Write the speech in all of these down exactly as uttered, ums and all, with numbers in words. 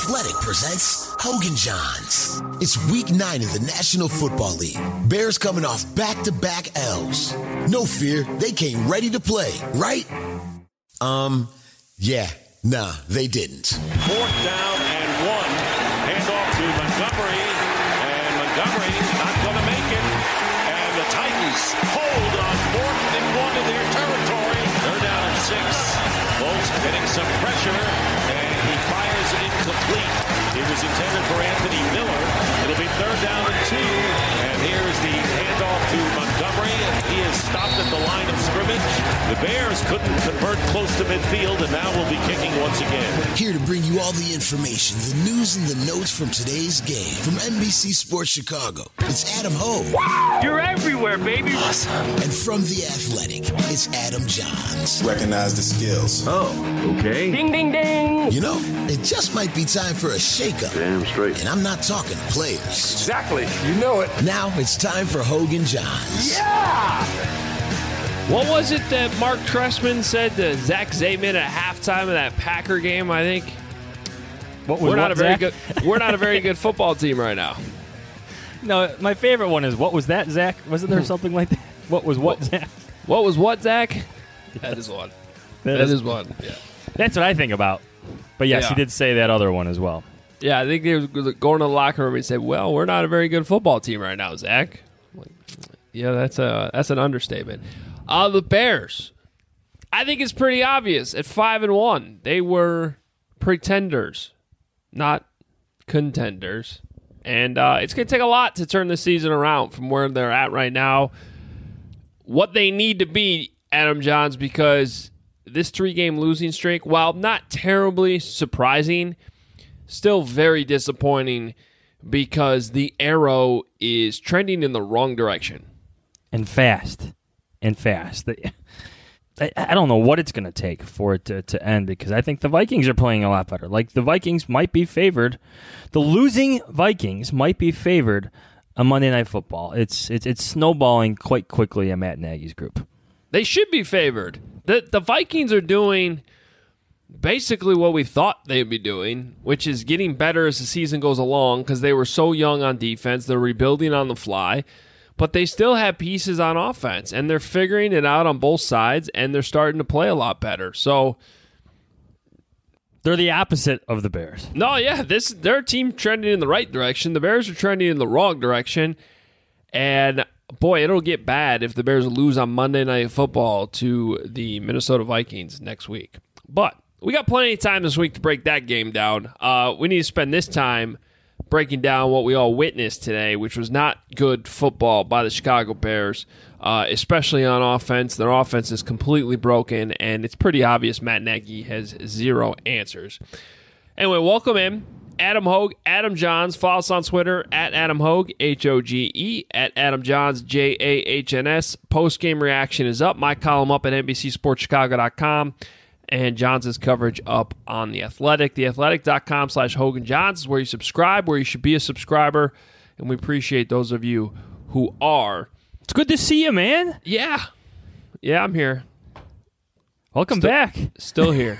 Athletic presents Hogan Johns. It's week nine of the National Football League. Bears coming off back-to-back L's. No fear, they came ready to play, right? Um, yeah, nah, they didn't. Fourth down and one. Hand off to Montgomery, and Montgomery not going to make it. And the Titans hold on fourth and one in their territory. They're down at six. Bolts getting some pressure, and he fires it incomplete. It was intended for Anthony Miller. It'll be third down and two. And here's the handoff to Montgomery, and he is stopped at the line of scrimmage. The Bears couldn't convert close to midfield, and now will be kicking once again. Here to bring you all the information, the news, and the notes from today's game. From N B C Sports Chicago, it's Adam Hogue. You're everywhere, baby. Awesome. And from The Athletic, it's Adam Johns. Recognize the skills. Oh, okay. Ding, ding, ding. You know, it just might be time for a shakeup. Damn straight. And I'm not talking players. Exactly. You know it. Now it's time for Hogan Johns. Yeah! What was it that Mark Trestman said to Zach Zaidman at halftime of that Packer game, I think? What was we're not what, a very Zach? good we're not a very good football team right now. No, my favorite one is what was that, Zach? Wasn't there something like that? What was what, what Zach? What was what, Zach? That is one. That, that is, is one. Yeah. That's what I think about. But yes, yeah. he did say that other one as well. Yeah, I think they were going to the locker room and said, "Well, we're not a very good football team right now, Zach." Like, yeah, that's a that's an understatement. Uh, the Bears, I think it's pretty obvious. At five and one, they were pretenders, not contenders, and uh, it's going to take a lot to turn the season around from where they're at right now. What they need to be, Adam Johns, because this three-game losing streak, while not terribly surprising, still very disappointing because the arrow is trending in the wrong direction. And fast. And fast. I, I don't know what it's going to take for it to, to end because I think the Vikings are playing a lot better. Like, the Vikings might be favored. The losing Vikings might be favored on Monday Night Football. It's it's, it's snowballing quite quickly at Matt Nagy's group. They should be favored. The, the Vikings are doing basically what we thought they'd be doing, which is getting better as the season goes along because they were so young on defense. They're rebuilding on the fly, but they still have pieces on offense, and they're figuring it out on both sides, and they're starting to play a lot better. So they're the opposite of the Bears. No, yeah, this their team trending in the right direction. The Bears are trending in the wrong direction, and boy, it'll get bad if the Bears lose on Monday Night Football to the Minnesota Vikings next week. But we got plenty of time this week to break that game down. Uh, we need to spend this time breaking down what we all witnessed today, which was not good football by the Chicago Bears, uh, especially on offense. Their offense is completely broken, and it's pretty obvious Matt Nagy has zero answers. Anyway, welcome in Adam Hogue, Adam Johns. Follow us on Twitter at Adam Hogue, H O G E, at Adam Johns, J A H N S. Post-game reaction is up. My column up at N B C Sports Chicago dot com. And Johns' coverage up on The Athletic. TheAthletic.com slash Hogan Johns is where you subscribe, where you should be a subscriber. And we appreciate those of you who are. It's good to see you, man. Yeah. Yeah, I'm here. Welcome still, back. Still here.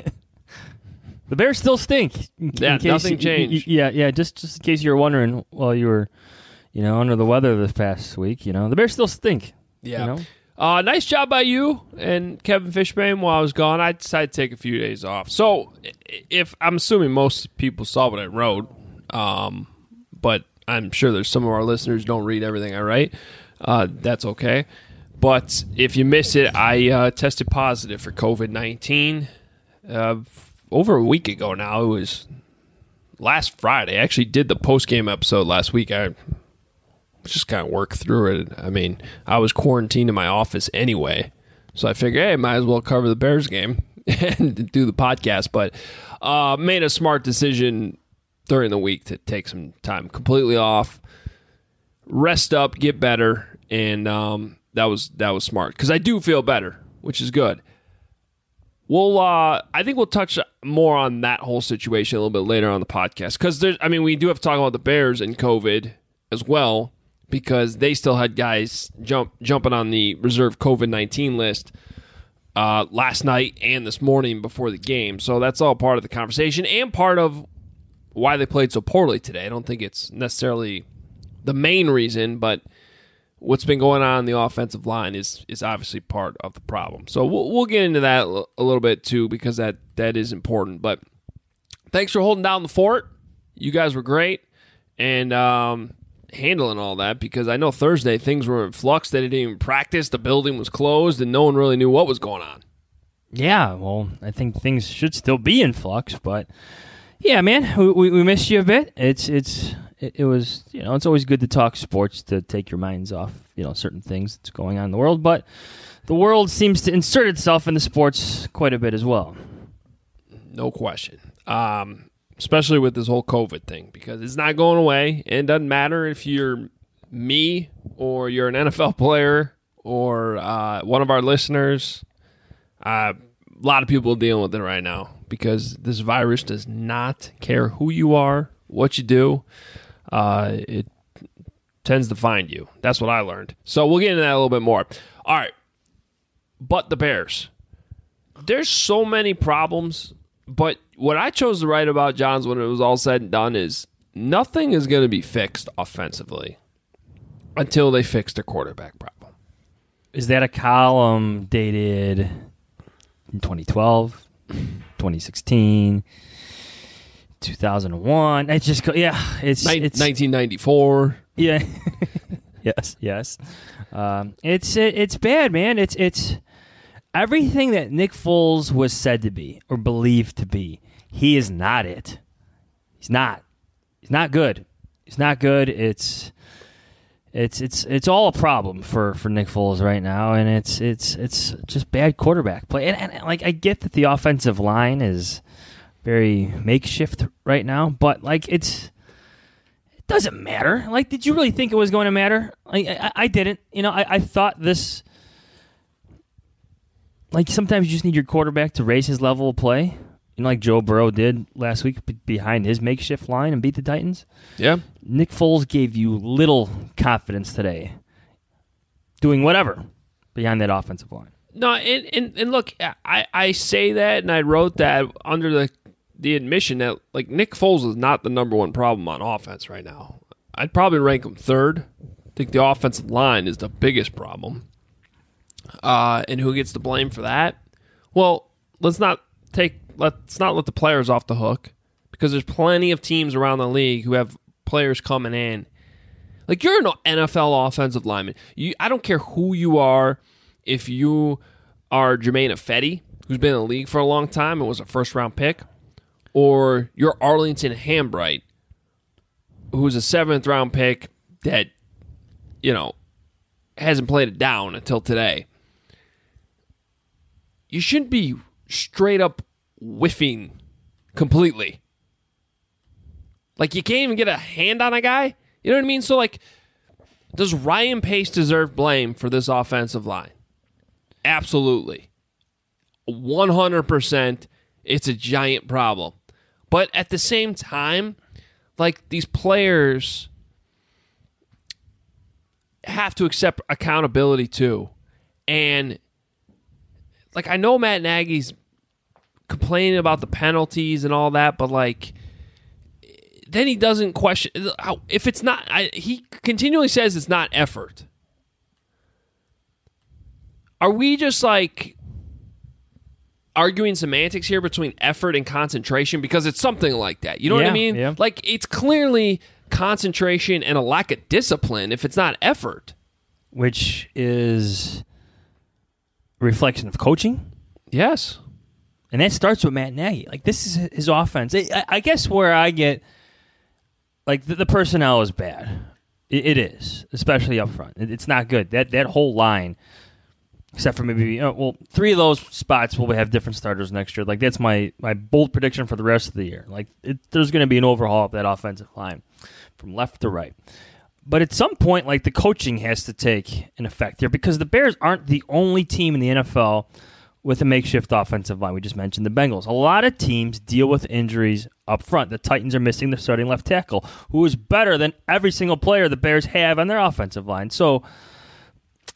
The Bears still stink. In, yeah, in case nothing you, changed. You, yeah, yeah. Just, just in case you were wondering while you were, you know, under the weather this past week, you know, the Bears still stink. Yeah. You know? Uh, nice job by you and Kevin Fishbane while I was gone. I decided to take a few days off. So, if I'm assuming most people saw what I wrote, um, but I'm sure there's some of our listeners who don't read everything I write. Uh, that's okay. But if you missed it, I uh, tested positive for covid nineteen uh, over a week ago now. It was last Friday. I actually did the post-game episode last week. I just kind of work through it. I mean, I was quarantined in my office anyway, so I figured, hey, might as well cover the Bears game and do the podcast. But uh, made a smart decision during the week to take some time completely off, rest up, get better, and um, that was that was smart because I do feel better, which is good. We'll, uh, I think we'll touch more on that whole situation a little bit later on the podcast because there's, I mean, we do have to talk about the Bears and COVID as well, because they still had guys jump jumping on the reserve covid nineteen list uh, last night and this morning before the game. So that's all part of the conversation and part of why they played so poorly today. I don't think it's necessarily the main reason, but what's been going on in the offensive line is is obviously part of the problem. So we'll we'll get into that a little bit too, because that that is important. But thanks for holding down the fort. You guys were great and um, handling all that, because I know Thursday things were in flux. They didn't even practice. The building was closed, and no one really knew what was going on. Yeah, well, I think things should still be in flux, but yeah, man, we we, we missed you a bit. It's it's it, it was you know it's always good to talk sports to take your minds off you know certain things that's going on in the world, but the world seems to insert itself into sports quite a bit as well. No question. Um, especially with this whole COVID thing, because it's not going away. And it doesn't matter if you're me or you're an N F L player or uh, one of our listeners. Uh, a lot of people are dealing with it right now because this virus does not care who you are, what you do. Uh, it tends to find you. That's what I learned. So we'll get into that a little bit more. All right. But the Bears. There's so many problems. But what I chose to write about, Johns, when it was all said and done, is nothing is going to be fixed offensively until they fix their quarterback problem. Is that a column dated in twenty twelve, twenty sixteen, two thousand one? It's just, yeah. It's, Nin- it's nineteen ninety-four. Yeah. yes, yes. Um, it's it, it's bad, man. It's it's... Everything that Nick Foles was said to be or believed to be, he is not it. He's not. He's not good. He's not good. It's it's it's it's all a problem for, for Nick Foles right now, and it's it's it's just bad quarterback play. And, and like I get that the offensive line is very makeshift right now, but like it's it doesn't matter. Like, did you really think it was going to matter? Like I, I didn't. You know, I, I thought this. Like, sometimes you just need your quarterback to raise his level of play, you know, like Joe Burrow did last week behind his makeshift line and beat the Titans. Yeah. Nick Foles gave you little confidence today doing whatever behind that offensive line. No, and, and, and look, I, I say that, and I wrote that under the, the admission that, like, Nick Foles is not the number one problem on offense right now. I'd probably rank him third. I think the offensive line is the biggest problem. Uh, and who gets the blame for that? Well, let's not take let's not let the players off the hook, because there's plenty of teams around the league who have players coming in. Like, you're an N F L offensive lineman. You, I don't care who you are. If you are Jermaine Ifedi, who's been in the league for a long time and was a first round pick, or you're Arlington Hambright, who's a seventh round pick that, you know, hasn't played it down until today. You shouldn't be straight up whiffing completely. Like, you can't even get a hand on a guy. You know what I mean? So, like, does Ryan Pace deserve blame for this offensive line? Absolutely. one hundred percent it's a giant problem. But at the same time, like, these players have to accept accountability too. And, like, I know Matt Nagy's complaining about the penalties and all that, but, like, then he doesn't question if it's not. I, he continually says it's not effort. Are we just, like, arguing semantics here between effort and concentration? Because it's something like that. You know yeah, what I mean? Yeah. Like, it's clearly concentration and a lack of discipline if it's not effort. Which is a reflection of coaching. Yes. And that starts with Matt Nagy. Like, this is his offense. I, I guess where I get, like, the, the personnel is bad. It, it is, especially up front. It, it's not good. That that whole line, except for maybe, you know, well, three of those spots will have different starters next year. Like, that's my, my bold prediction for the rest of the year. Like, it, there's going to be an overhaul of that offensive line from left to right. But at some point, like, the coaching has to take an effect here, because the Bears aren't the only team in the N F L with a makeshift offensive line. We just mentioned the Bengals. A lot of teams deal with injuries up front. The Titans are missing their starting left tackle, who is better than every single player the Bears have on their offensive line. So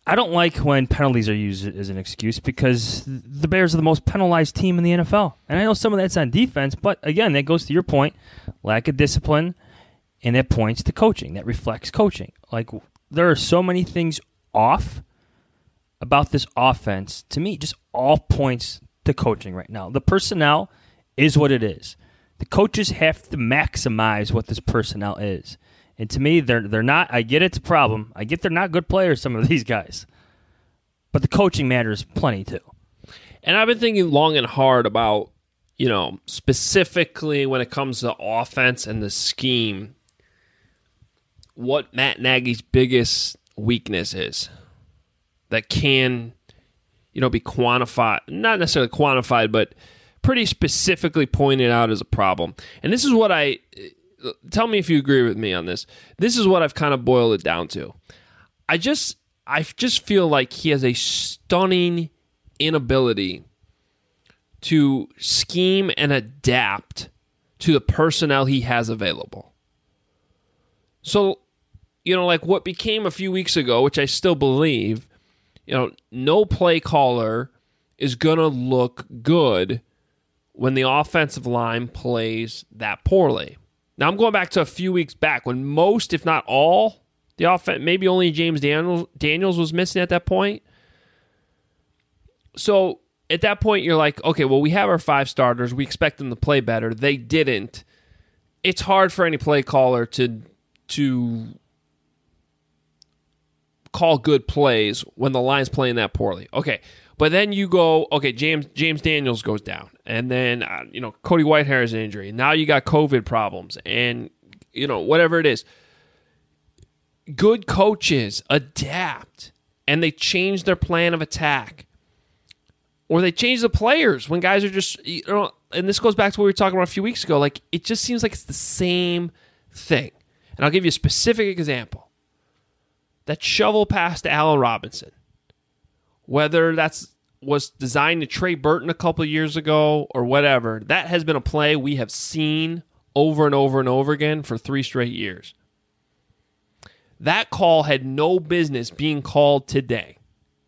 I don't like when penalties are used as an excuse because the Bears are the most penalized team in the N F L. And I know some of that's on defense, but again, that goes to your point, lack of discipline, and that points to coaching. That reflects coaching. Like, there are so many things off about this offense. To me, just all points to coaching right now. The personnel is what it is. The coaches have to maximize what this personnel is. And to me, they're they're not. I get it's a problem. I get they're not good players, some of these guys. But the coaching matters plenty, too. And I've been thinking long and hard about, you know, specifically when it comes to offense and the scheme, what Matt Nagy's biggest weakness is that can, you know, be quantified. Not necessarily quantified, but pretty specifically pointed out as a problem. And this is what I... Tell me if you agree with me on this. This is what I've kind of boiled it down to. I just I just feel like he has a stunning inability to scheme and adapt to the personnel he has available. So, you know, like what became a few weeks ago, which I still believe, you know, no play caller is going to look good when the offensive line plays that poorly. Now, I'm going back to a few weeks back when most, if not all, the offense, maybe only James Daniels, Daniels was missing at that point. So, at that point, you're like, okay, well, we have our five starters. We expect them to play better. They didn't. It's hard for any play caller to, to call good plays when the line's playing that poorly. Okay, but then you go, okay, James James Daniels goes down. And then, uh, you know, Cody Whitehair is an injury. Now you got COVID problems and, you know, whatever it is. Good coaches adapt and they change their plan of attack. Or they change the players when guys are just, you know, and this goes back to what we were talking about a few weeks ago. Like, it just seems like it's the same thing. And I'll give you a specific example. That shovel pass to Allen Robinson. Whether that's was designed to Trey Burton a couple of years ago or whatever, that has been a play we have seen over and over and over again for three straight years. That call had no business being called today.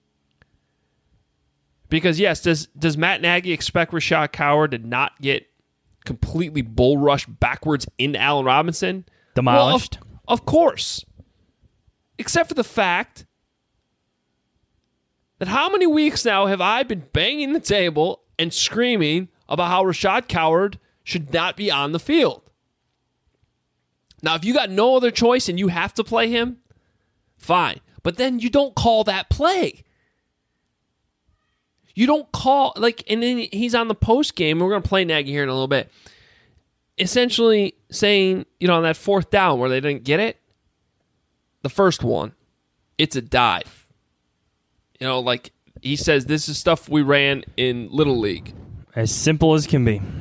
Because, yes, does does Matt Nagy expect Rashad Coward to not get completely bull rushed backwards into Allen Robinson? Demolished? Well, of, of course. Except for the fact that how many weeks now have I been banging the table and screaming about how Rashad Coward should not be on the field? Now, if you got no other choice and you have to play him, fine. But then you don't call that play. You don't call, like, and then he's on the post game. We're going to play Nagy here in a little bit. Essentially saying, you know, on that fourth down where they didn't get it, the first one, it's a dive. You know, like he says, this is stuff we ran in Little League. As simple as can be.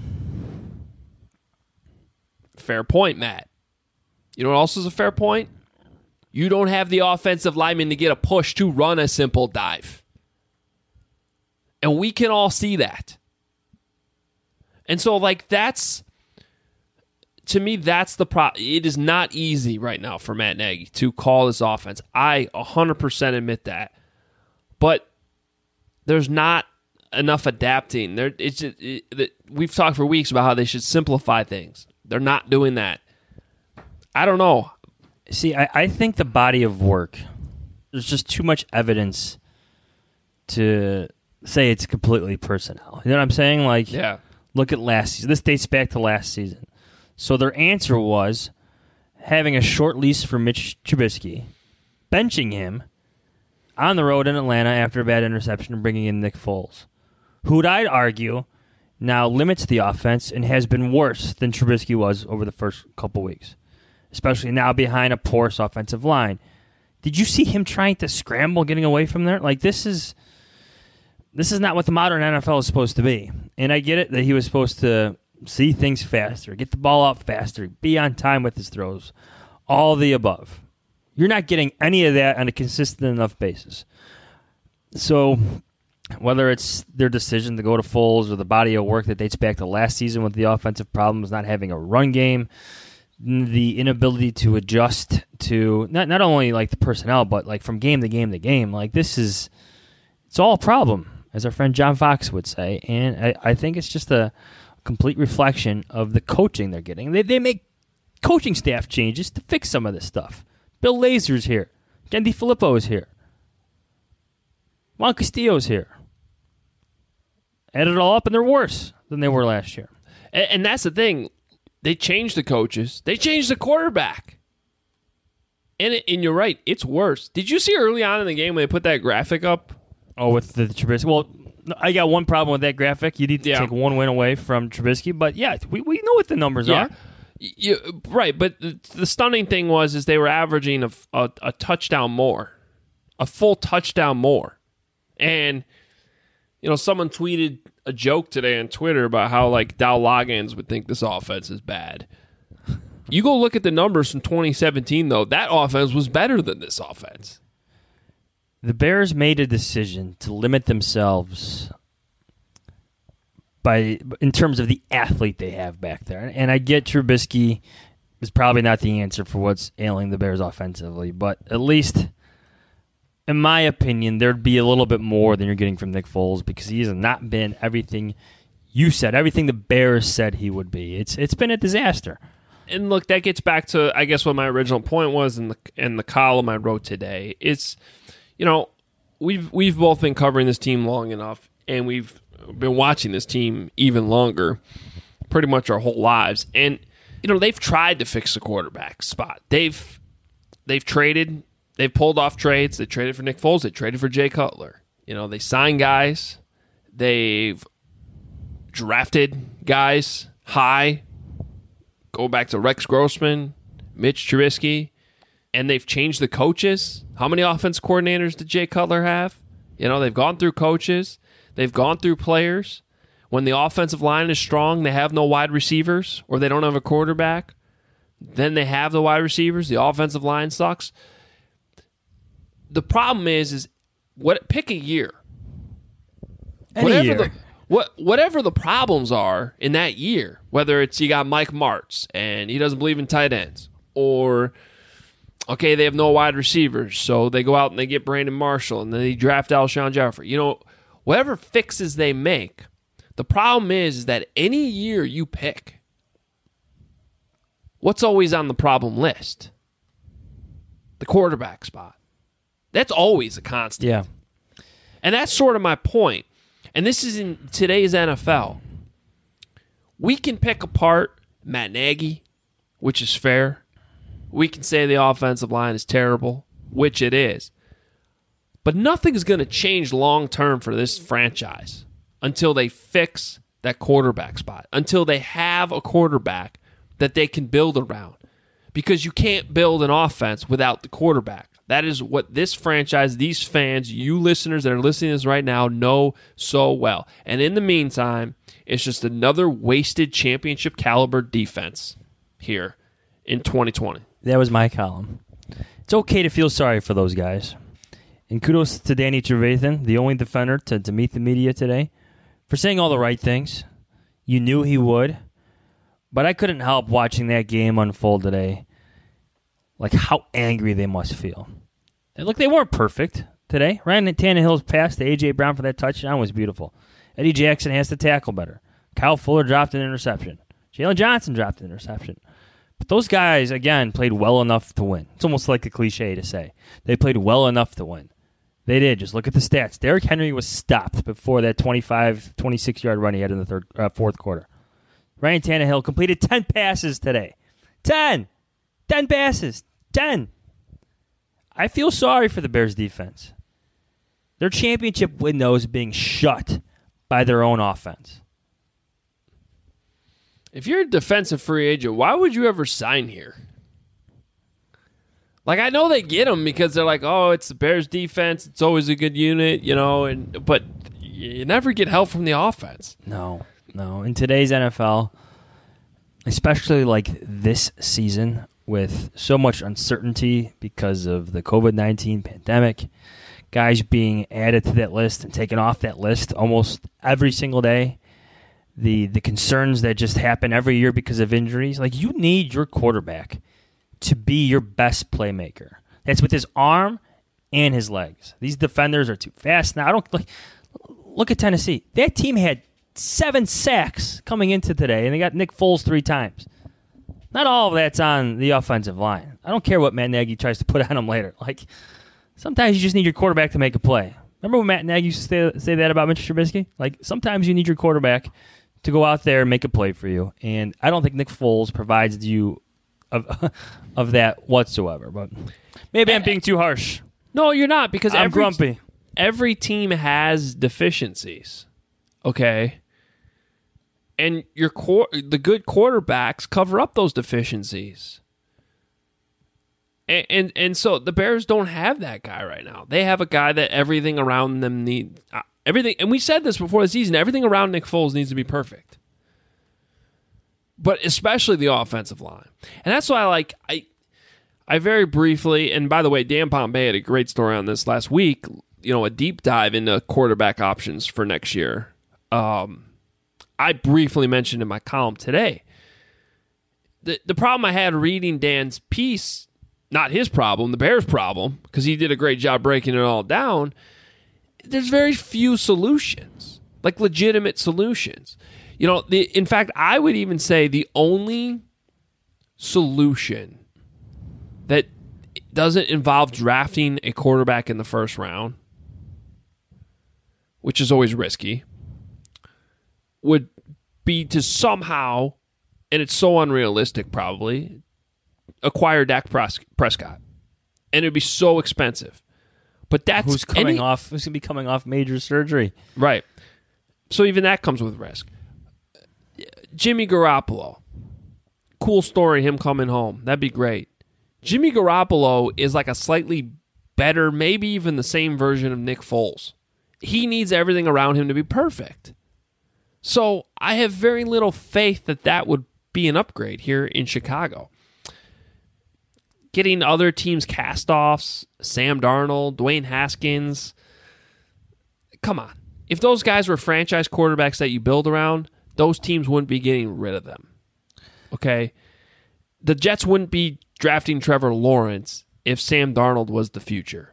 Fair point, Matt. You know what else is a fair point? You don't have the offensive lineman to get a push to run a simple dive. And we can all see that. And so, like, that's, to me, that's the problem. It is not easy right now for Matt Nagy to call this offense. I one hundred percent admit that. But there's not enough adapting. There, it's just, it, we've talked for weeks about how they should simplify things. They're not doing that. I don't know. See, I, I think the body of work, there's just too much evidence to say it's completely personnel. You know what I'm saying? Like, yeah. Look at last season. This dates back to last season. So their answer was having a short lease for Mitch Trubisky, benching him on the road in Atlanta after a bad interception and bringing in Nick Foles, who I'd argue now limits the offense and has been worse than Trubisky was over the first couple weeks, especially now behind a porous offensive line. Did you see him trying to scramble, getting away from there? Like, this is this is not what the modern N F L is supposed to be. And I get it that he was supposed to see things faster, get the ball out faster, be on time with his throws, all the above. You're not getting any of that on a consistent enough basis. So whether it's their decision to go to Foles or the body of work that dates back to last season with the offensive problems, not having a run game, the inability to adjust to not not only like the personnel, but like from game to game to game. Like this is, it's all a problem, as our friend John Fox would say. And I, I think it's just a complete reflection of the coaching they're getting. They they make coaching staff changes to fix some of this stuff. Bill Lazor's here. Ken DiFilippo is here. Juan Castillo's here. Add it all up, and they're worse than they were last year. And, and that's the thing. They changed the coaches. They changed the quarterback. And, it, and you're right. It's worse. Did you see early on in the game when they put that graphic up? Oh, with the, the Trubisky. Well, I got one problem with that graphic. You need to yeah. take one win away from Trubisky. But, yeah, we, we know what the numbers yeah. are. You, right, but the, the stunning thing was is they were averaging a, a, a touchdown more. A full touchdown more. And, you know, someone tweeted a joke today on Twitter about how, like, Dow Loggins would think this offense is bad. You go look at the numbers from twenty seventeen, though. That offense was better than this offense. The Bears made a decision to limit themselves by in terms of the athlete they have back there. And I get Trubisky is probably not the answer for what's ailing the Bears offensively, but at least, in my opinion, there'd be a little bit more than you're getting from Nick Foles because he has not been everything you said, everything the Bears said he would be. It's It's been a disaster. And look, that gets back to, I guess, what my original point was in the in the column I wrote today. It's, you know, we've we've both been covering this team long enough, and we've been watching this team even longer, pretty much our whole lives. And, you know, they've tried to fix the quarterback spot. They've they've traded, they've pulled off trades. They traded for Nick Foles. They traded for Jay Cutler. You know, they signed guys. They've drafted guys high. Go back to Rex Grossman, Mitch Trubisky, and they've changed the coaches. How many offense coordinators did Jay Cutler have? You know, they've gone through coaches. They've gone through players. When the offensive line is strong, they have no wide receivers, or they don't have a quarterback. Then they have the wide receivers. The offensive line sucks. The problem is, is what? Pick a year. Any Whatever year. the What whatever the problems are in that year, whether it's you got Mike Martz and he doesn't believe in tight ends, or okay, they have no wide receivers, so they go out and they get Brandon Marshall and then they draft Alshon Jeffrey. You know, whatever fixes they make, the problem is, is that any year you pick, what's always on the problem list? The quarterback spot. That's always a constant. Yeah. And that's sort of my point. And this is in today's N F L. We can pick apart Matt Nagy, which is fair. We can say the offensive line is terrible, which it is. But nothing's going to change long-term for this franchise until they fix that quarterback spot, until they have a quarterback that they can build around. Because you can't build an offense without the quarterback. That is what this franchise, these fans, you listeners that are listening to this right now know so well. And in the meantime, it's just another wasted championship caliber defense here in twenty twenty. That was my column. It's okay to feel sorry for those guys. And kudos to Danny Trevathan, the only defender to, to meet the media today, for saying all the right things. You knew he would. But I couldn't help watching that game unfold today. Like how angry they must feel. And look, they weren't perfect today. Ryan Tannehill's pass to A J. Brown for that touchdown was beautiful. Eddie Jackson has to tackle better. Kyle Fuller dropped an interception. Jalen Johnson dropped an interception. But those guys, again, played well enough to win. It's almost like a cliche to say. They played well enough to win. They did. Just look at the stats. Derrick Henry was stopped before that twenty-five, twenty-six-yard run he had in the third, uh, fourth quarter. Ryan Tannehill completed ten passes today. ten! ten passes. ten. I feel sorry for the Bears defense. Their championship window is being shut by their own offense. If you're a defensive free agent, why would you ever sign here? Like, I know they get them because they're like, oh, it's the Bears defense. It's always a good unit, you know, and but you never get help from the offense. No, no. In today's N F L, especially like this season, with so much uncertainty because of the covid nineteen pandemic, guys being added to that list and taken off that list almost every single day, the the concerns that just happen every year because of injuries. Like, you need your quarterback to be your best playmaker. That's with his arm and his legs. These defenders are too fast now. I don't like. Look at Tennessee. That team had seven sacks coming into today, and they got Nick Foles three times. Not all of that's on the offensive line. I don't care what Matt Nagy tries to put on them later. Like, sometimes you just need your quarterback to make a play. Remember when Matt Nagy used to say, say that about Mitch Trubisky? Like, sometimes you need your quarterback to go out there and make a play for you. And I don't think Nick Foles provides you of of that whatsoever. But maybe I'm being too harsh. No, you're not, because I'm every, grumpy. every team has deficiencies. Okay? And your core, the good quarterbacks cover up those deficiencies. And, and and so the Bears don't have that guy right now. They have a guy that everything around them need uh, everything. And we said this before the season. Everything around Nick Foles needs to be perfect, but especially the offensive line. And that's why I like I I very briefly. And by the way, Dan Pompei had a great story on this last week. You know, a deep dive into quarterback options for next year. Um, I briefly mentioned in my column today. The the problem I had reading Dan's piece. Not his problem, the Bears' problem, because he did a great job breaking it all down. There's very few solutions, like legitimate solutions. You know, the, in fact, I would even say the only solution that doesn't involve drafting a quarterback in the first round, which is always risky, would be to somehow, and it's so unrealistic probably, acquire Dak Prescott, and it'd be so expensive. But that's who's coming any, off. Who's gonna be coming off major surgery, right? So even that comes with risk. Jimmy Garoppolo, cool story. Him coming home, that'd be great. Jimmy Garoppolo is like a slightly better, maybe even the same version of Nick Foles. He needs everything around him to be perfect. So I have very little faith that that would be an upgrade here in Chicago. Getting other teams' cast-offs, Sam Darnold, Dwayne Haskins. Come on. If those guys were franchise quarterbacks that you build around, those teams wouldn't be getting rid of them. Okay? The Jets wouldn't be drafting Trevor Lawrence if Sam Darnold was the future.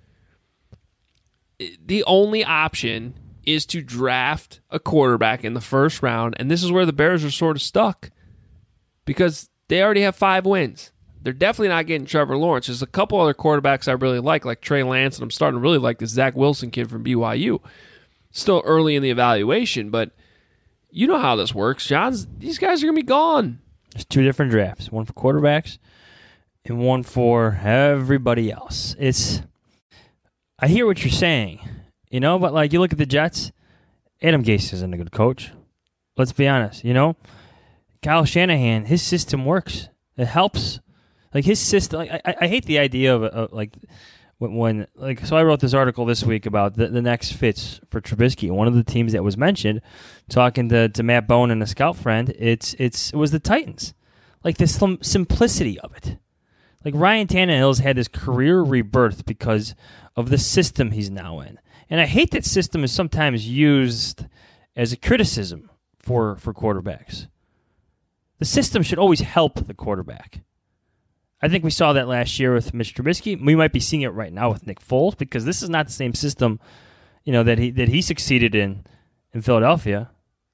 The only option is to draft a quarterback in the first round, and this is where the Bears are sort of stuck because they already have five wins. They're definitely not getting Trevor Lawrence. There's a couple other quarterbacks I really like, like Trey Lance, and I'm starting to really like this Zach Wilson kid from B Y U. Still early in the evaluation, but you know how this works, Johns. These guys are going to be gone. There's two different drafts, one for quarterbacks and one for everybody else. It's, I hear what you're saying, you know, but like you look at the Jets, Adam Gase isn't a good coach. Let's be honest, you know. Kyle Shanahan, his system works. It helps. Like his system, like, I, I hate the idea of uh, like when, when like so I wrote this article this week about the, the next fits for Trubisky. One of the teams that was mentioned, talking to, to Matt Bone and a scout friend, it's it's it was the Titans. Like the sim- simplicity of it. Like Ryan Tannehill's had his career rebirth because of the system he's now in, and I hate that system is sometimes used as a criticism for for quarterbacks. The system should always help the quarterback. I think we saw that last year with Mitch Trubisky. We might be seeing it right now with Nick Foles because this is not the same system, you know, that he that he succeeded in in Philadelphia.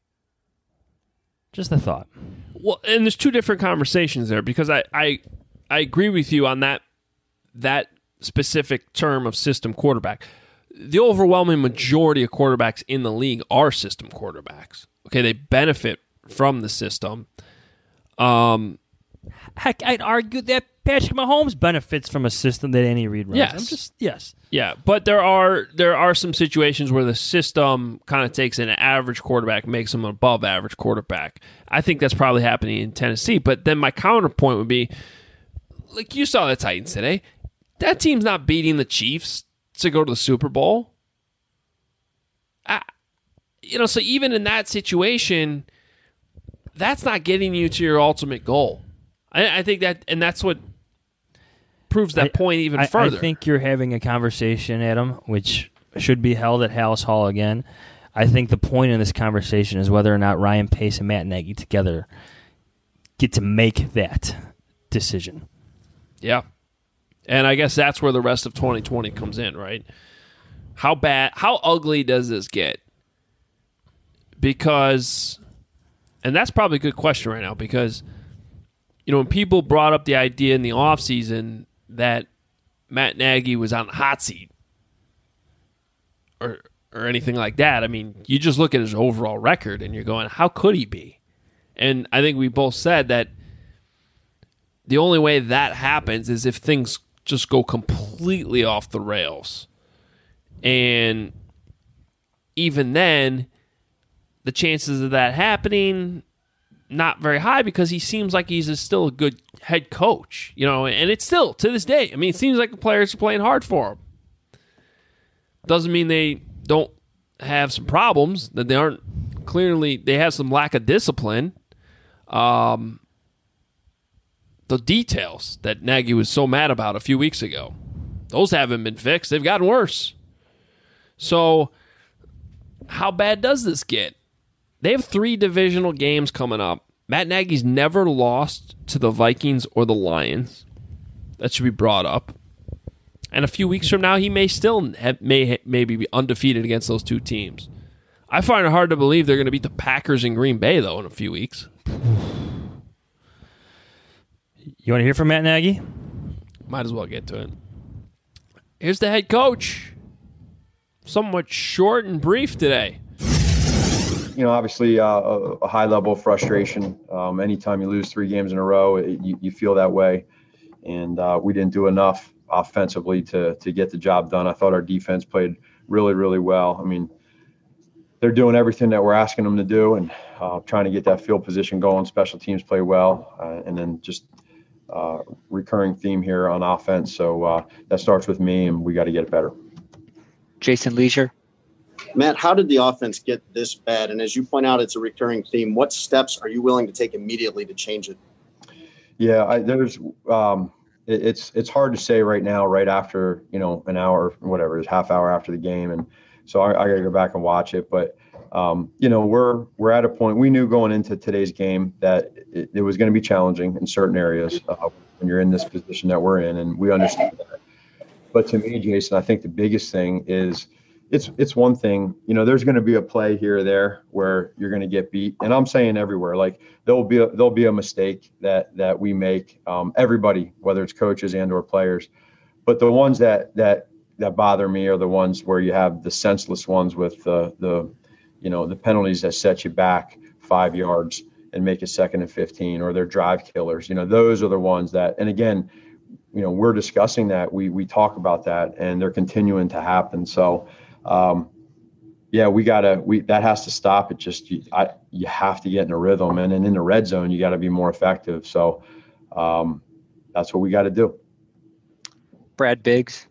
Just a thought. Well, and there's two different conversations there because I I, I agree with you on that that specific term of system quarterback. The overwhelming majority of quarterbacks in the league are system quarterbacks. Okay, they benefit from the system. Um, Heck, I'd argue that Patrick Mahomes benefits from a system that Andy Reid runs. Yes. I'm just yes. Yeah, but there are there are some situations where the system kind of takes an average quarterback, makes him an above average quarterback. I think that's probably happening in Tennessee. But then my counterpoint would be, like you saw the Titans today, that team's not beating the Chiefs to go to the Super Bowl. I, you know, so even in that situation, that's not getting you to your ultimate goal. I, I think that, and that's what proves that I, point even I, further. I think you're having a conversation, Adam, which should be held at Hallis Hall again, I think the point in this conversation is whether or not Ryan Pace and Matt Nagy together get to make that decision. Yeah. And I guess that's where the rest of twenty twenty comes in, right? How bad, how ugly does this get? Because, and that's probably a good question right now, because, you know, when people brought up the idea in the offseason that Matt Nagy was on the hot seat or or anything like that, I mean, you just look at his overall record and you're going, how could he be? And I think we both said that the only way that happens is if things just go completely off the rails. And even then, the chances of that happening, not very high, because he seems like he's a, still a good head coach, you know, and it's still, to this day, I mean, it seems like the players are playing hard for him. Doesn't mean they don't have some problems, that they aren't clearly, they have some lack of discipline. Um, the details that Nagy was so mad about a few weeks ago, those haven't been fixed. They've gotten worse. So how bad does this get? They have three divisional games coming up. Matt Nagy's never lost to the Vikings or the Lions. That should be brought up. And a few weeks from now, he may still have, may maybe be undefeated against those two teams. I find it hard to believe they're going to beat the Packers in Green Bay, though, in a few weeks. You want to hear from Matt Nagy? Might as well get to it. Here's the head coach. Somewhat short and brief today. You know, obviously uh, a, a high level of frustration. Um, anytime you lose three games in a row, it, you, you feel that way. And uh, we didn't do enough offensively to to get the job done. I thought our defense played really, really well. I mean, they're doing everything that we're asking them to do, and uh, trying to get that field position going. Special teams play well, uh, and then just uh, recurring theme here on offense. So uh, that starts with me, and we got to get it better. Jason Leisure. Matt, how did the offense get this bad? And as you point out, it's a recurring theme. What steps are you willing to take immediately to change it? Yeah, I, there's um, it, it's it's hard to say right now, right after, you know, an hour, whatever, it's half hour after the game. And so I, I got to go back and watch it. But, um, you know, we're we're at a point, we knew going into today's game that it, it was going to be challenging in certain areas uh, when you're in this position that we're in. And we understand that. But to me, Jason, I think the biggest thing is it's it's one thing, you know, there's going to be a play here or there where you're going to get beat. And I'm saying everywhere, like there'll be a, there'll be a mistake that that we make, um, everybody, whether it's coaches and or players. But the ones that that that bother me are the ones where you have the senseless ones with the, the you know, the penalties that set you back five yards and make it second and fifteen, or they're drive killers. You know, those are the ones that, and again, you know, we're discussing that. We we talk about that, and they're continuing to happen. So, um, yeah, we gotta we that has to stop. It just you, I you have to get in a rhythm, and then in the red zone, you got to be more effective. So, um, that's what we got to do. Brad Biggs.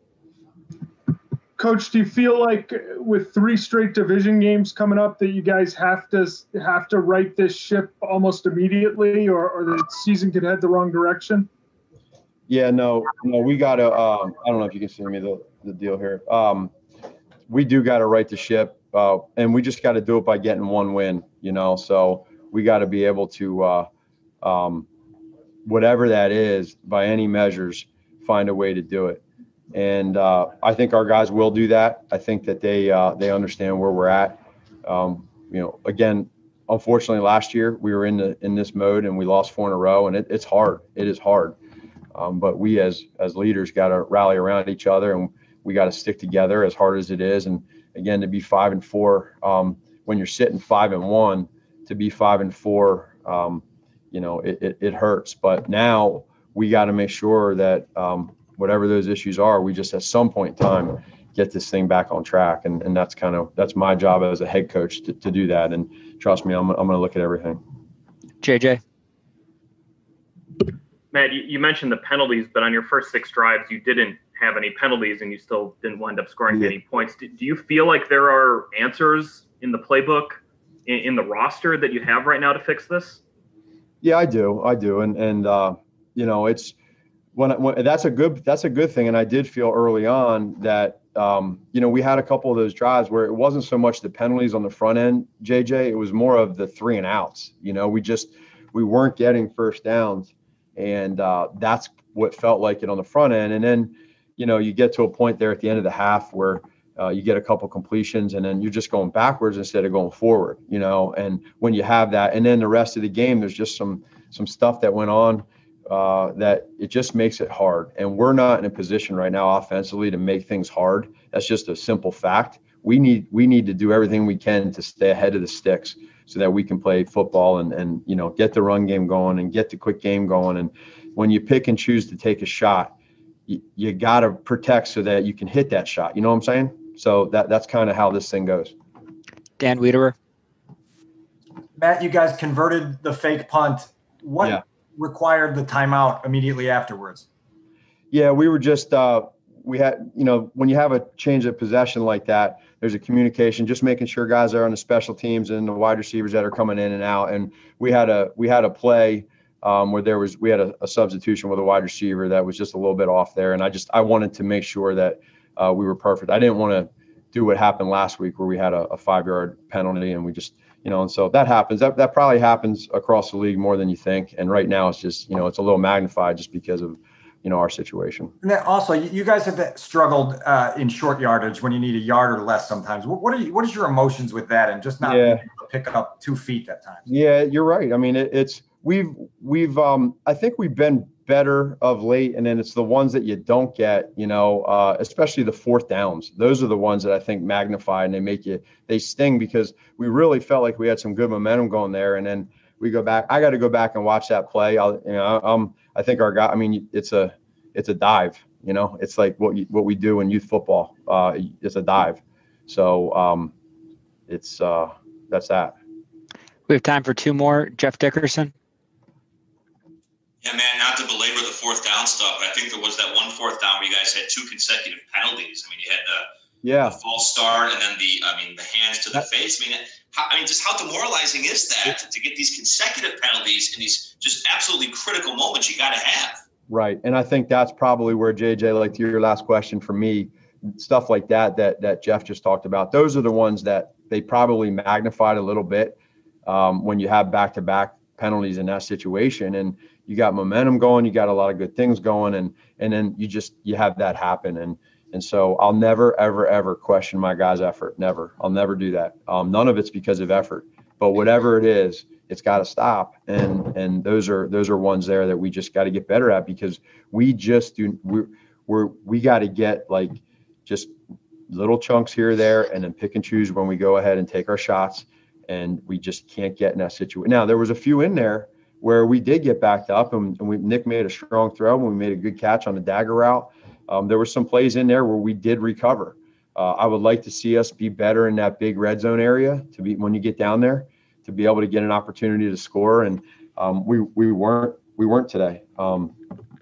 Coach, do you feel like with three straight division games coming up that you guys have to have to right this ship almost immediately, or, or the season could head the wrong direction? Yeah, no, no, we got to, uh, I don't know if you can see me, the, the deal here. Um, we do got to right the ship, uh, and we just got to do it by getting one win, you know, so we got to be able to, uh, um, whatever that is, by any measures, find a way to do it. And uh, I think our guys will do that. I think that they uh, they understand where we're at. Um, you know, again, unfortunately, last year we were in the in this mode and we lost four in a row, and it, it's hard. It is hard. Um, but we as as leaders got to rally around each other, and we got to stick together as hard as it is. And again, to be five and four, um, when you're sitting five and one, to be five and four, um, you know, it, it, it hurts. But now we got to make sure that um, whatever those issues are, we just at some point in time get this thing back on track. And, and that's kind of that's my job as a head coach to, to do that. And trust me, I'm I'm going to look at everything. J J. Matt, you mentioned the penalties, but on your first six drives, you didn't have any penalties and you still didn't wind up scoring yeah. any points. Do you feel like there are answers in the playbook, in, in the roster that you have right now to fix this? Yeah, I do. I do. And, and uh, you know, it's when, when that's a good that's a good thing. And I did feel early on that um, you know, we had a couple of those drives where it wasn't so much the penalties on the front end, J J. It was more of the three and outs. You know, we just we weren't getting first downs, and uh, that's what felt like it on the front end. And then, you know, you get to a point there at the end of the half where uh, you get a couple completions, and then you're just going backwards instead of going forward. You know, and when you have that, and then the rest of the game, there's just some some stuff that went on. Uh, that it just makes it hard. And we're not in a position right now offensively to make things hard. That's just a simple fact. We need we need to do everything we can to stay ahead of the sticks so that we can play football and, and you know, get the run game going and get the quick game going. And when you pick and choose to take a shot, you, you got to protect so that you can hit that shot. You know what I'm saying? So that that's kind of how this thing goes. Dan Wiederer. Matt, you guys converted the fake punt. What yeah. required the timeout immediately afterwards? Yeah, we were just uh, we had, you know, when you have a change of possession like that, there's a communication, just making sure guys are on the special teams and the wide receivers that are coming in and out. And we had a we had a play um, where there was we had a, a substitution with a wide receiver that was just a little bit off there, and I just I wanted to make sure that uh, we were perfect. I didn't want to do what happened last week where we had a, a five yard penalty and we just. You know, and so that happens. That that probably happens across the league more than you think. And right now, it's just, you know, it's a little magnified just because of, you know, our situation. And then also, you guys have struggled uh, in short yardage when you need a yard or less sometimes. What, what are you, what is your emotions with that, and just not yeah. being able to pick up two feet at times? Yeah, you're right. I mean, it, it's we've we've um I think we've been better of late, and then it's the ones that you don't get, you know, uh, especially the fourth downs. Those are the ones that I think magnify and they make you, they sting because we really felt like we had some good momentum going there. And then we go back, I got to go back and watch that play. I'll, you know, um, I think our guy, I mean, it's a, it's a dive, you know, it's like what you, what we do in youth football. Uh, it's a dive. So um, it's, uh, that's that. We have time for two more. Jeff Dickerson. Yeah, man, not to belabor the fourth down stuff, but I think there was that one fourth down where you guys had two consecutive penalties. I mean, you had the, yeah. the false start and then the, I mean, the hands to the that, face. I mean, how, I mean, just how demoralizing is that to, to get these consecutive penalties in these just absolutely critical moments you got to have? Right, and I think that's probably where, J J, like to your last question for me, stuff like that that that Jeff just talked about, those are the ones that they probably magnified a little bit um, when you have back-to-back penalties in that situation. And you got momentum going, you got a lot of good things going, and and then you just you have that happen. And and so I'll never, ever, ever question my guys' effort. Never. I'll never do that. Um, none of it's because of effort. But whatever it is, it's got to stop. And and those are those are ones there that we just got to get better at, because we just do we're we're we got to get like just little chunks here or there and then pick and choose when we go ahead and take our shots. And we just can't get in that situation. Now, there was a few in there where we did get backed up, and, and we, Nick made a strong throw, and we made a good catch on the dagger route. Um, there were some plays in there where we did recover. Uh, I would like to see us be better in that big red zone area to be when you get down there, to be able to get an opportunity to score. And um, we we weren't we weren't today. Um,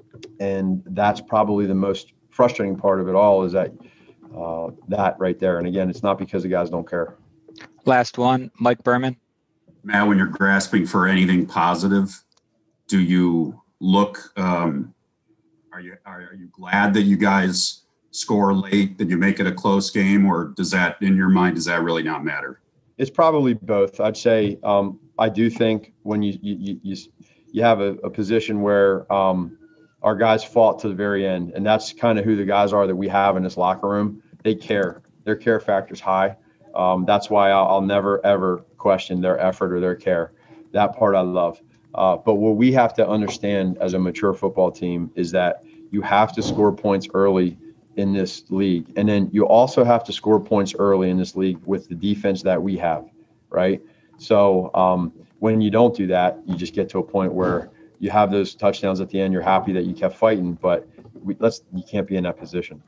and that's probably the most frustrating part of it all, is that uh, that right there. And again, it's not because the guys don't care. Last one, Mike Berman. Matt, when you're grasping for anything positive, do you look, um, are you are, are you glad that you guys score late, that you make it a close game, or does that, in your mind, does that really not matter? It's probably both. I'd say um, I do think when you you you, you have a, a position where um, our guys fought to the very end, and that's kind of who the guys are that we have in this locker room. They care. Their care factor's high. Um, that's why I'll, I'll never, ever question their effort or their care. That part I love. Uh, but what we have to understand as a mature football team is that you have to score points early in this league. And then you also have to score points early in this league with the defense that we have, right? So um, when you don't do that, you just get to a point where you have those touchdowns at the end. You're happy that you kept fighting, but we, let's you can't be in that position.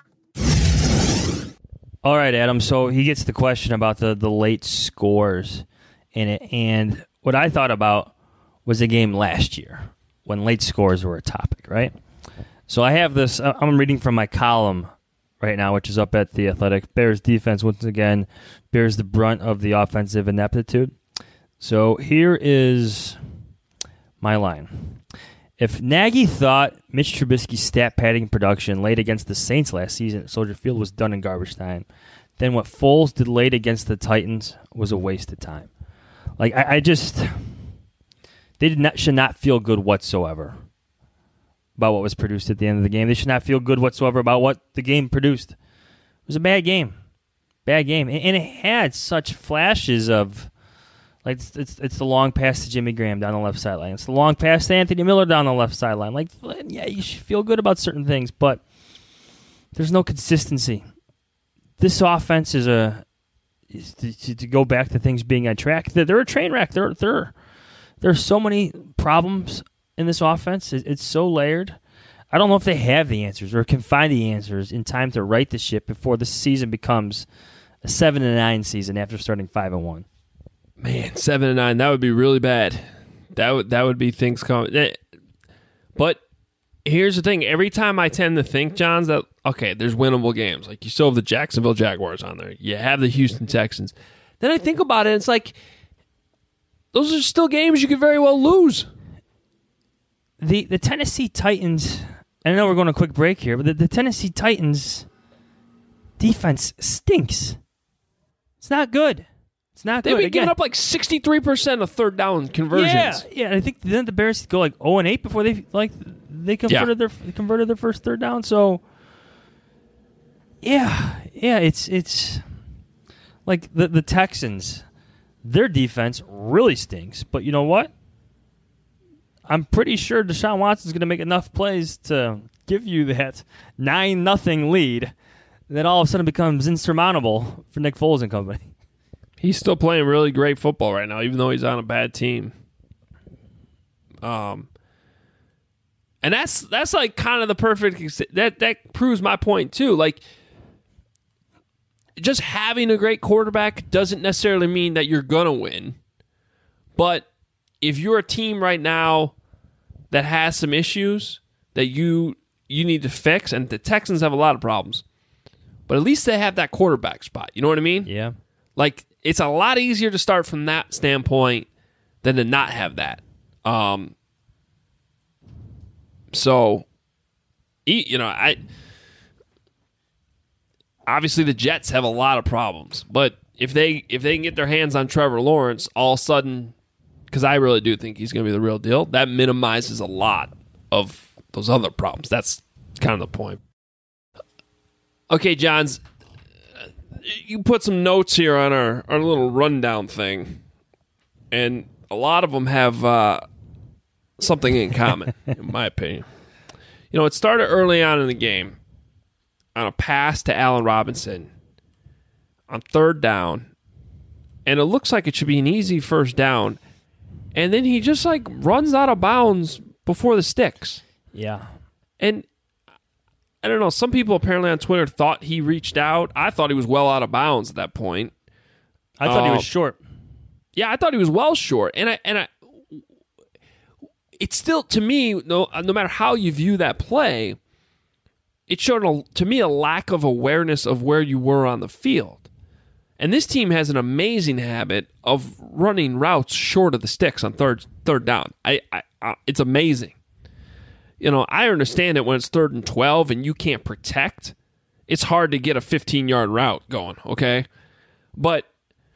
All right, Adam. So he gets the question about the, the late scores in it. And what I thought about was a game last year when late scores were a topic, right? So I have this, I'm reading from my column right now, which is up at The Athletic. Bears defense, once again, bears the brunt of the offensive ineptitude. So here is my line. If Nagy thought Mitch Trubisky's stat padding production late against the Saints last season at Soldier Field was done in garbage time, then what Foles did late against the Titans was a waste of time. Like, I, I just... They did not, should not feel good whatsoever about what was produced at the end of the game. They should not feel good whatsoever about what the game produced. It was a bad game. Bad game. And, and it had such flashes of... Like, it's, it's it's the long pass to Jimmy Graham down the left sideline. It's the long pass to Anthony Miller down the left sideline. Like, yeah, you should feel good about certain things, but there's no consistency. This offense is a is to, to go back to things being on track. They're, they're a train wreck. There there there's so many problems in this offense. It, it's so layered. I don't know if they have the answers or can find the answers in time to right the ship before the season becomes a seven and nine season after starting five and one. Man, seven and nine, that would be really bad. That would that would be things coming. But here's the thing: every time I tend to think, Johns, that okay, there's winnable games. Like you still have the Jacksonville Jaguars on there. You have the Houston Texans. Then I think about it, and it's like those are still games you could very well lose. The the Tennessee Titans. I know we're going to a quick break here, but the, the Tennessee Titans defense stinks. It's not good. It's not They've good. been Again, giving up like sixty-three percent of third down conversions. Yeah, yeah. I think then the Bears go like zero and eight before they like they converted Yeah. their converted their first third down. So yeah, yeah. It's it's like the the Texans. Their defense really stinks. But you know what? I'm pretty sure Deshaun Watson's going to make enough plays to give you that nine nothing lead that all of a sudden becomes insurmountable for Nick Foles and company. He's still playing really great football right now, even though he's on a bad team. Um, and that's that's like kind of the perfect that that proves my point too. Like, just having a great quarterback doesn't necessarily mean that you're gonna win. But if you're a team right now that has some issues that you you need to fix, and the Texans have a lot of problems, but at least they have that quarterback spot. You know what I mean? Yeah. Like, it's a lot easier to start from that standpoint than to not have that. Um, so, you know, I obviously the Jets have a lot of problems, but if they if they can get their hands on Trevor Lawrence, all of a sudden, because I really do think he's going to be the real deal, that minimizes a lot of those other problems. That's kind of the point. Okay, Johns. You put some notes here on our, our little rundown thing, and a lot of them have uh, something in common, in my opinion. You know, it started early on in the game on a pass to Allen Robinson on third down, and it looks like it should be an easy first down, and then he just, like, runs out of bounds before the sticks. Yeah. And I don't know. Some people apparently on Twitter thought he reached out. I thought he was well out of bounds at that point. I thought um, he was short. Yeah, I thought he was well short. And I and I it's still, to me, no no matter how you view that play, it showed a, to me a lack of awareness of where you were on the field. And this team has an amazing habit of running routes short of the sticks on third third down. I, I, I it's amazing. You know, I understand it when it's third and twelve and you can't protect. It's hard to get a fifteen-yard route going, okay? But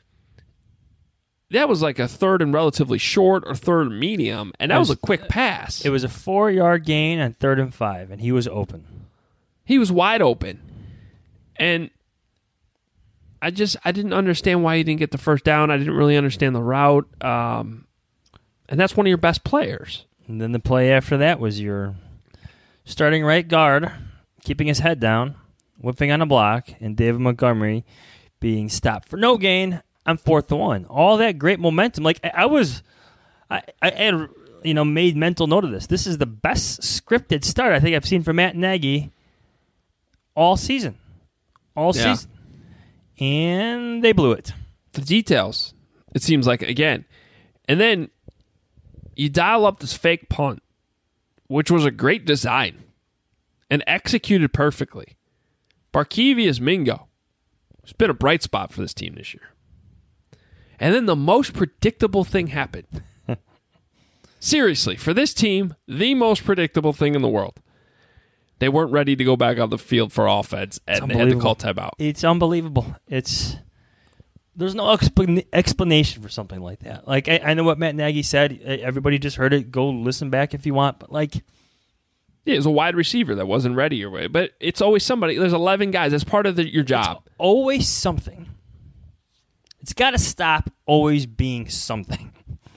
that was like a third and relatively short or third and medium, and that was, was a quick pass. It was a four-yard gain on third and five, and he was open. He was wide open. And I just, I didn't understand why he didn't get the first down. I didn't really understand the route. Um, and that's one of your best players. And then the play after that was your starting right guard keeping his head down, whipping on a block, and David Montgomery being stopped for no gain on fourth and one. All that great momentum. Like, I, I was, I, I had, you know, made mental note of this. This is the best scripted start I think I've seen from Matt Nagy all season. All yeah. season. And they blew it. The details, it seems like, again. And then you dial up this fake punt, which was a great design and executed perfectly. Barkevious Mingo has been a bright spot for this team this year. And then the most predictable thing happened. Seriously, for this team, the most predictable thing in the world. They weren't ready to go back on the field for offense, and they had to call timeout. It's unbelievable. It's there's no expl- explanation for something like that. Like I, I know what Matt Nagy said. Everybody just heard it. Go listen back if you want. But like, yeah, it was a wide receiver that wasn't ready or way. But it's always somebody. There's eleven guys. That's part of the, your job. It's always something. It's got to stop always being something.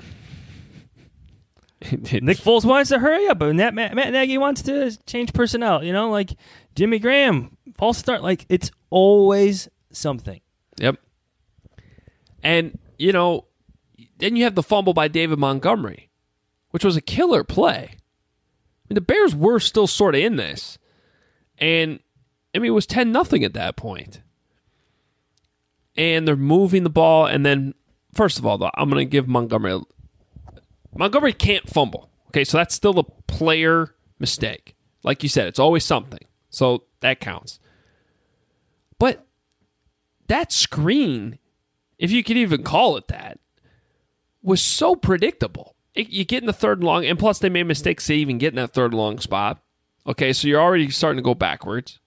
Nick Foles wants to hurry up, but Matt, Matt, Matt Nagy wants to change personnel. You know, like Jimmy Graham, false start. Like it's always something. Yep. And you know, then you have the fumble by David Montgomery, which was a killer play. I mean, the Bears were still sort of in this, and I mean it was ten nothing at that point. And they're moving the ball, and then first of all, though, I'm going to give Montgomery. A, Montgomery can't fumble. Okay, so that's still a player mistake. Like you said, it's always something. So that counts. But that screen, if you could even call it that, was so predictable. It, you get in the third and long, and plus they made mistakes to even get in that third and long spot. Okay, so you're already starting to go backwards.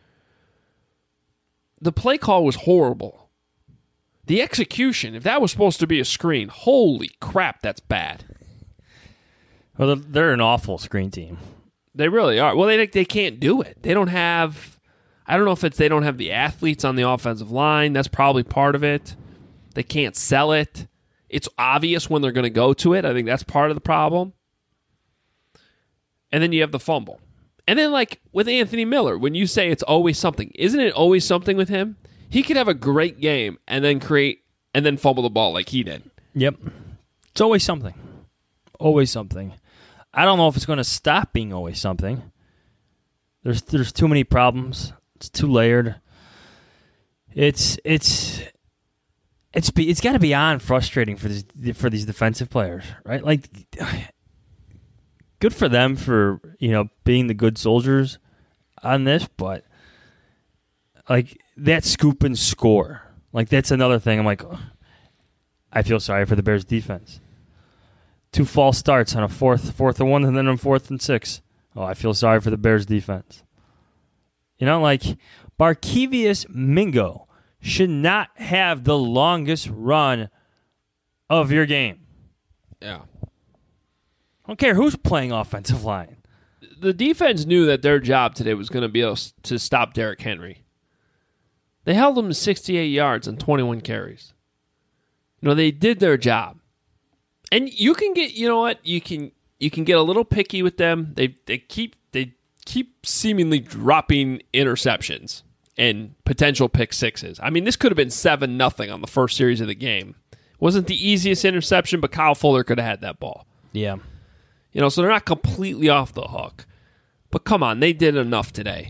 The play call was horrible. The execution, if that was supposed to be a screen, holy crap, that's bad. Well, they're an awful screen team. They really are. Well, they they can't do it. They don't have, I don't know if it's they don't have the athletes on the offensive line. That's probably part of it. They can't sell it. It's obvious when they're going to go to it. I think that's part of the problem. And then you have the fumble. And then, like, with Anthony Miller, when you say it's always something, isn't it always something with him? He could have a great game and then create and then fumble the ball like he did. Yep. It's always something. Always something. I don't know if it's going to stop being always something. There's there's too many problems. It's too layered. It's it's it's it's got to be beyond frustrating for these for these defensive players, right? Like, good for them for, you know, being the good soldiers on this, but like that scoop and score, like that's another thing. I'm like, oh, I feel sorry for the Bears defense. Two false starts on a fourth, fourth and one, and then on fourth and six. Oh, I feel sorry for the Bears defense. You know, like Barkevious Mingo should not have the longest run of your game. Yeah. I don't care who's playing offensive line. The defense knew that their job today was going to be able to stop Derrick Henry. They held him to sixty-eight yards and twenty-one carries. You know, they did their job. And you can get, you know what, you can you can get a little picky with them. They they keep they keep seemingly dropping interceptions and potential pick sixes. I mean, this could have been seven nothing on the first series of the game. Wasn't the easiest interception, but Kyle Fuller could have had that ball. Yeah. You know, so they're not completely off the hook. But come on, they did enough today.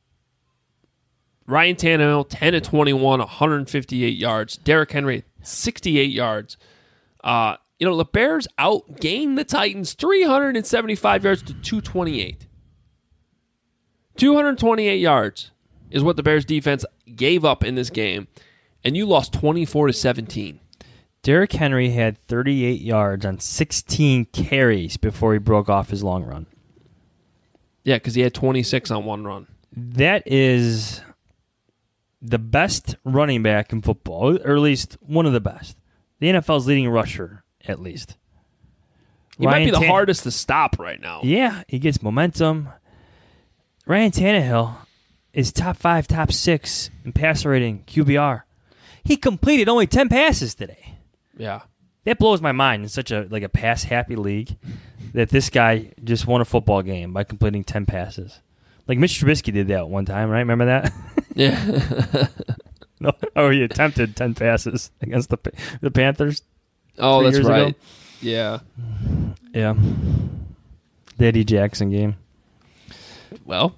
Ryan Tannehill, ten of twenty-one, one hundred fifty-eight yards. Derrick Henry, sixty-eight yards. Uh, you know, the Bears outgained the Titans three hundred seventy-five yards to two twenty-eight. two hundred twenty-eight yards is what the Bears defense gave up in this game, and you lost twenty-four to seventeen. Derrick Henry had thirty-eight yards on sixteen carries before he broke off his long run. Yeah, because he had twenty-six on one run. That is the best running back in football, or at least one of the best. The N F L's leading rusher, at least. He Ryan might be the Tan- hardest to stop right now. Yeah, he gets momentum. Ryan Tannehill is top five, top six in passer rating, Q B R. He completed only ten passes today. Yeah. That blows my mind in such a like a pass-happy league that this guy just won a football game by completing ten passes. Like Mitch Trubisky did that one time, right? Remember that? Yeah. No, oh, he attempted ten passes against the the Panthers. Oh, that's right. Ago. Yeah. Yeah. The Eddie Jackson game. Well,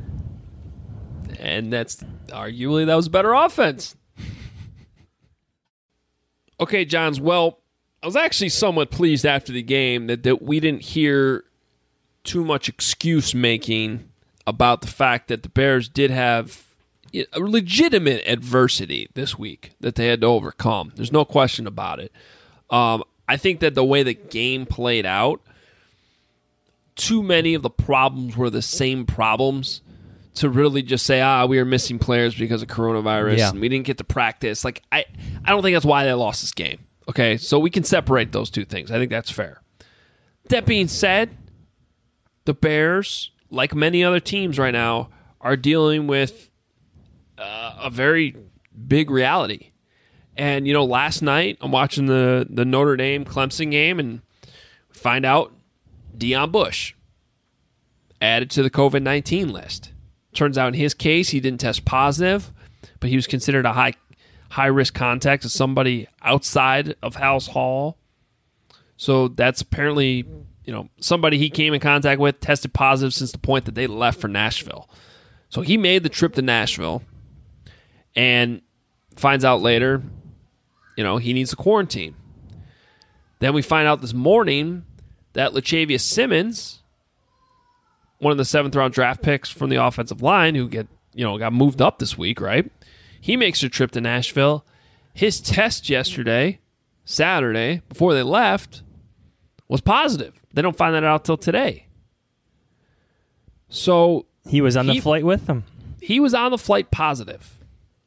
and that's arguably that was better offense. Okay, Johns, well, I was actually somewhat pleased after the game that, that we didn't hear too much excuse making about the fact that the Bears did have a legitimate adversity this week that they had to overcome. There's no question about it. Um, I think that the way the game played out, too many of the problems were the same problems to really just say, ah, we are missing players because of coronavirus Yeah. and we didn't get to practice. Like, I, I don't think that's why they lost this game. Okay, so we can separate those two things. I think that's fair. That being said, the Bears, like many other teams right now, are dealing with uh, a very big reality. And, you know, last night I'm watching the, the Notre Dame Clemson game and find out Deion Bush added to the covid nineteen list. Turns out in his case, he didn't test positive, but he was considered a high high risk contact of somebody outside of House Hall. So that's apparently, you know, somebody he came in contact with tested positive since the point that they left for Nashville. So he made the trip to Nashville and finds out later, you know, he needs a quarantine. Then we find out this morning that Latavius Simmons, one of the seventh round draft picks from the offensive line, who get you know got moved up this week, right? He makes a trip to Nashville. His test yesterday, Saturday, before they left, was positive. They don't find that out till today. So he was on he, the flight with them. He was on the flight positive.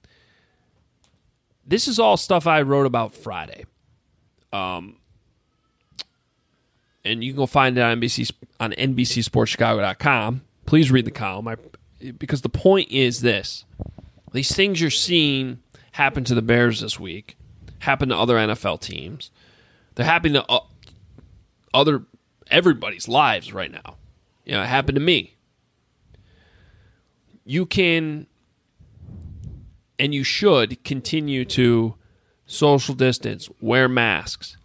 This is all stuff I wrote about Friday. Um, and you can go find it on N B C on N B C Sports Chicago dot com. Please read the column. I, because the point is this. These things you're seeing happen to the Bears this week, happen to other N F L teams. They're happening to uh, other everybody's lives right now. You know, it happened to me. You can and you should continue to social distance, wear masks.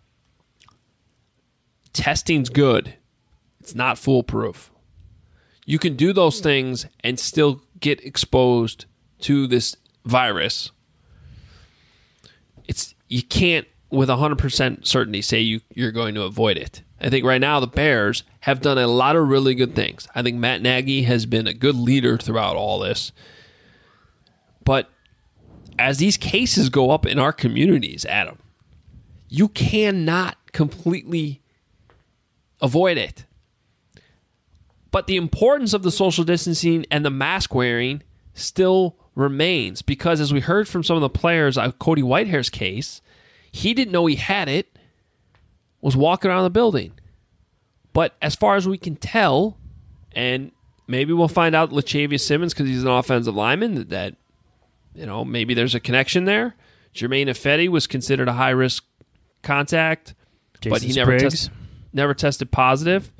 Testing's good. It's not foolproof. You can do those things and still get exposed to this virus. It's you can't with one hundred percent certainty say you, you're going to avoid it. I think right now the Bears have done a lot of really good things. I think Matt Nagy has been a good leader throughout all this. But as these cases go up in our communities, Adam, you cannot completely avoid it. But the importance of the social distancing and the mask wearing still remains because as we heard from some of the players on Cody Whitehair's case, he didn't know he had it, was walking around the building. But as far as we can tell, and maybe we'll find out Latavius Simmons because he's an offensive lineman, that, you know, maybe there's a connection there. Jermaine Ifedi was considered a high-risk contact, Jason but he never, test, never tested positive.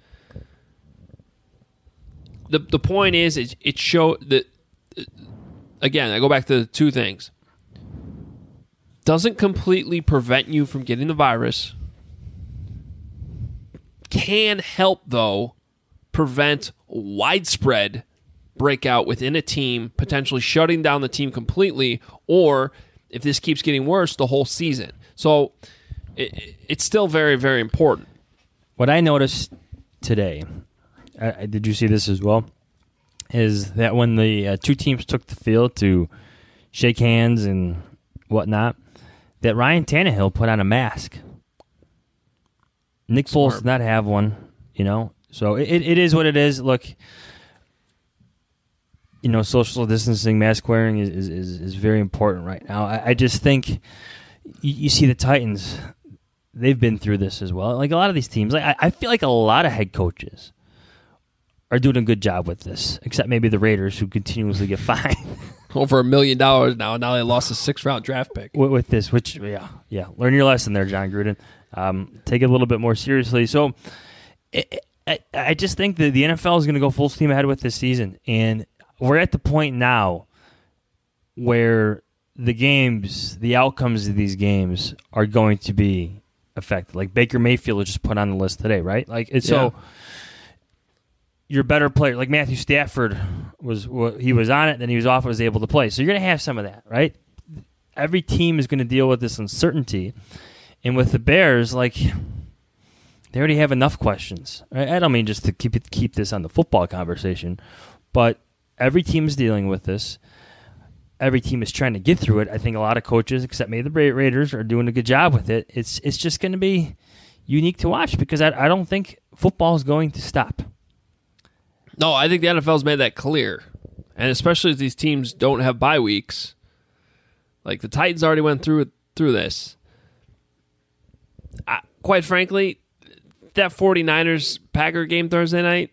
The the point is, it, it showed that, again, I go back to the two things. Doesn't completely prevent you from getting the virus. Can help, though, prevent widespread breakout within a team, potentially shutting down the team completely, or if this keeps getting worse, the whole season. So it, it's still very, very important. What I noticed today, uh, did you see this as well, is that when the uh, two teams took the field to shake hands and whatnot, that Ryan Tannehill put on a mask. Nick Foles did not have one, you know. So it, it is what it is. Look, you know, social distancing, mask wearing is, is, is, is very important right now. I, I just think you, you see the Titans, they've been through this as well. Like a lot of these teams, like I, I feel like a lot of head coaches are doing a good job with this, except maybe the Raiders who continuously get fined. Over a million dollars now, and now they lost a six-round draft pick. With, with this, which, yeah, yeah. Learn your lesson there, John Gruden. Um, take it a little bit more seriously. So it, I, I just think that the N F L is going to go full steam ahead with this season. And we're at the point now where the games, the outcomes of these games are going to be affected. Like Baker Mayfield was just put on the list today, right? Like it's Yeah. so your better player, like Matthew Stafford was, he was on it, then he was off, was able to play. So you're going to have some of that, right? Every team is going to deal with this uncertainty. And with the Bears, like, they already have enough questions. Right? I don't mean just to keep it, keep this on the football conversation, but every team is dealing with this. Every team is trying to get through it. I think a lot of coaches, except maybe the Raiders, are doing a good job with it. It's it's just going to be unique to watch because I, I don't think football is going to stop. No, I think the N F L's made that clear. And especially as these teams don't have bye weeks. Like the Titans already went through through this. I, quite frankly, that 49ers Packer game Thursday night,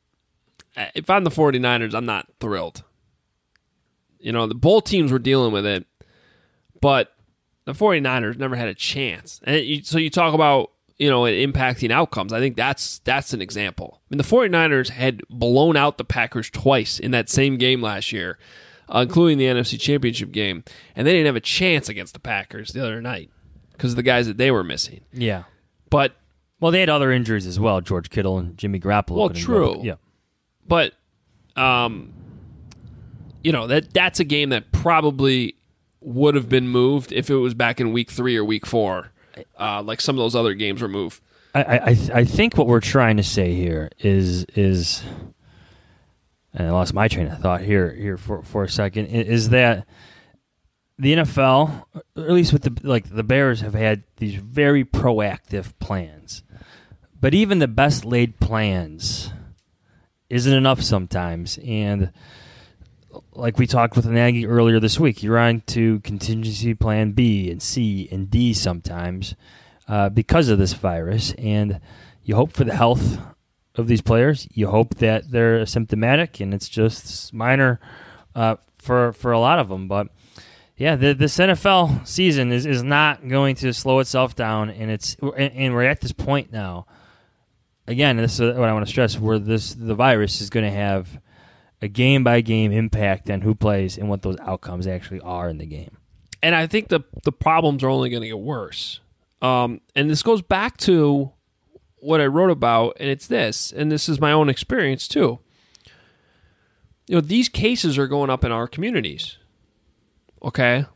if I'm the 49ers, I'm not thrilled. You know, the both teams were dealing with it, but the 49ers never had a chance. And it, so you talk about, you know, it impacting outcomes. I think that's that's an example. I mean, the 49ers had blown out the Packers twice in that same game last year, uh, including the N F C Championship game, and they didn't have a chance against the Packers the other night because of the guys that they were missing. Yeah. But well, they had other injuries as well, George Kittle and Jimmy Garoppolo. Well, true. Yeah. But, um, you know, that that's a game that probably would have been moved if it was back in week three or week four, uh, like some of those other games were moved. I, I, I think what we're trying to say here is is, and I lost my train of thought here here for, for a second, is that the N F L, or at least with the like the Bears, have had these very proactive plans, but even the best laid plans isn't enough sometimes. And like we talked with Nagy earlier this week, you're on to contingency plan B and C and D sometimes uh, because of this virus. And you hope for the health of these players. You hope that they're asymptomatic and it's just minor uh, for for a lot of them. But yeah, the, this N F L season is, is not going to slow itself down, and it's and we're at this point now. Again, this is what I want to stress: where this the virus is going to have a game-by-game impact on who plays and what those outcomes actually are in the game. And I think the the problems are only going to get worse. Um, and this goes back to what I wrote about, and it's this, and this is my own experience too. You know, these cases are going up in our communities. Okay?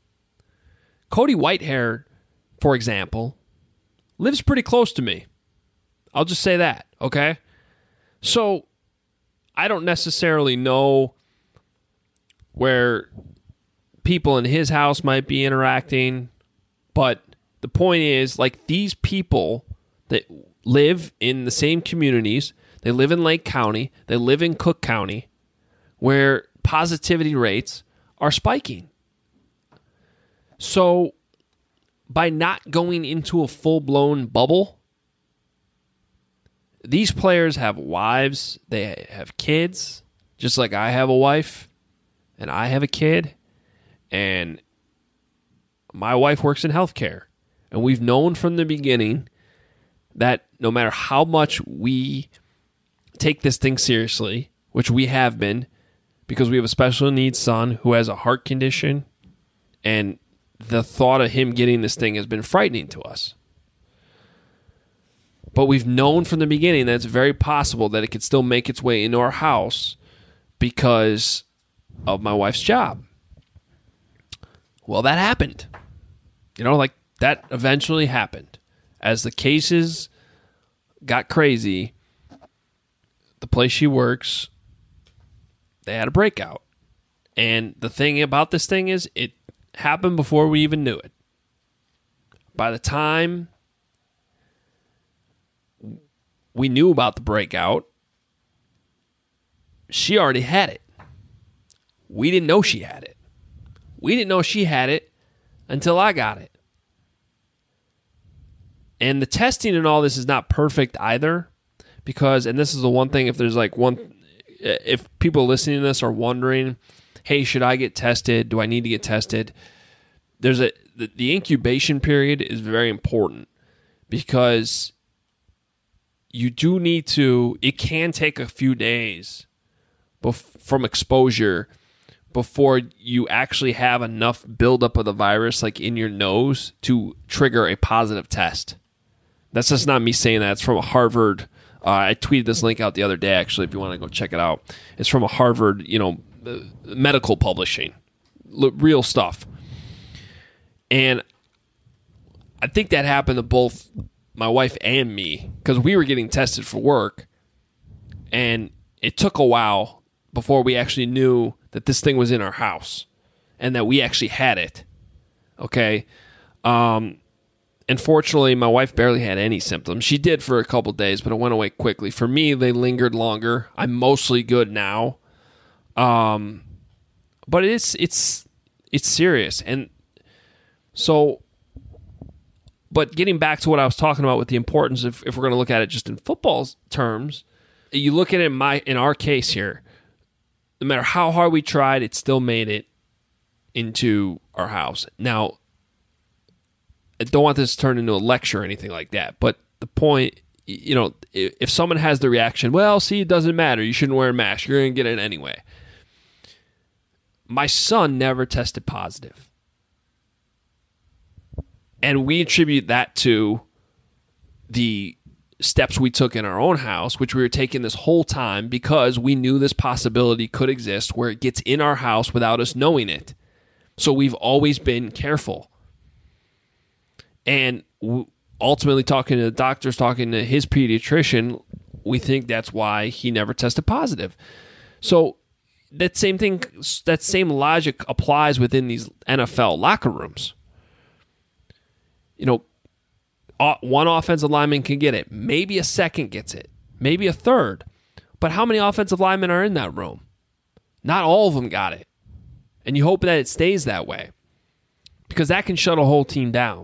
Cody Whitehair, for example, lives pretty close to me. I'll just say that, okay? So I don't necessarily know where people in his house might be interacting, but the point is, like, these people that live in the same communities, they live in Lake County, they live in Cook County, where positivity rates are spiking. So by not going into a full-blown bubble, these players have wives, they have kids, just like I have a wife, and I have a kid, and my wife works in healthcare. And we've known from the beginning that no matter how much we take this thing seriously, which we have been, because we have a special needs son who has a heart condition, and the thought of him getting this thing has been frightening to us. But we've known from the beginning that it's very possible that it could still make its way into our house because of my wife's job. Well, that happened. You know, like, that eventually happened. As the cases got crazy, the place she works, they had a breakout. And the thing about this thing is, it happened before we even knew it. By the time we knew about the breakout, she already had it. We didn't know she had it. We didn't know she had it until I got it. And the testing and all this is not perfect either, because, and this is the one thing, if there's like one, if people listening to this are wondering, hey, should I get tested? Do I need to get tested? There's a, the, the incubation period is very important, because you do need to, it can take a few days bef- from exposure before you actually have enough buildup of the virus, like in your nose, to trigger a positive test. That's just not me saying that. It's from a Harvard. Uh, I tweeted this link out the other day, actually, if you want to go check it out. It's from a Harvard, you know, uh, medical publishing, L- real stuff. And I think that happened to both my wife and me, because we were getting tested for work, and it took a while before we actually knew that this thing was in our house and that we actually had it. Okay? Um, And fortunately, my wife barely had any symptoms. She did for a couple days, but it went away quickly. For me, they lingered longer. I'm mostly good now. Um, but it's it's it's serious. And so, but getting back to what I was talking about with the importance of, if we're going to look at it just in football terms, you look at it in my in our case here, no matter how hard we tried, it still made it into our house. Now, I don't want this to turn into a lecture or anything like that, but the point, you know, if someone has the reaction, well, see, it doesn't matter, you shouldn't wear a mask, you're going to get it anyway. My son never tested positive. And we attribute that to the steps we took in our own house, which we were taking this whole time because we knew this possibility could exist where it gets in our house without us knowing it. So we've always been careful. And ultimately, talking to the doctors, talking to his pediatrician, we think that's why he never tested positive. So that same thing, that same logic applies within these N F L locker rooms. You know, one offensive lineman can get it. Maybe a second gets it. Maybe a third. But how many offensive linemen are in that room? Not all of them got it. And you hope that it stays that way. Because that can shut a whole team down.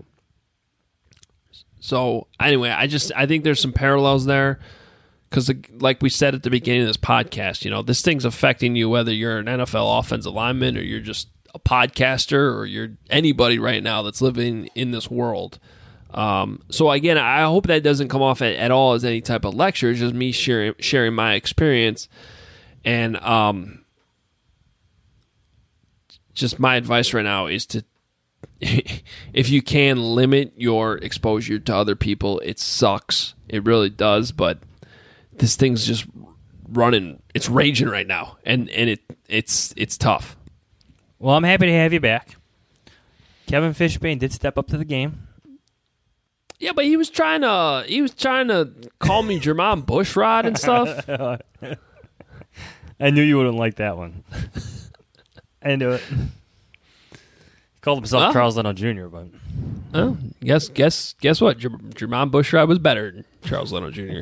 So, anyway, I just I think there's some parallels there. Because, like we said at the beginning of this podcast, you know, this thing's affecting you whether you're an N F L offensive lineman or you're just a podcaster or you're anybody right now that's living in this world. Um, so again, I hope that doesn't come off at, at all as any type of lecture. It's just me sharing sharing my experience, and um, just my advice right now is to, if you can, limit your exposure to other people. It sucks, it really does, but this thing's just running. It's raging right now, and and it it's it's tough. Well, I'm happy to have you back. Kevin Fishbain did step up to the game. Yeah, but he was trying to he was trying to call me Jermon Bushrod and stuff. I knew you wouldn't like that one. I knew it. He called himself Well, Charles Leno Junior, but oh, guess guess guess what? Jer- Jermon Bushrod was better than Charles Leno Junior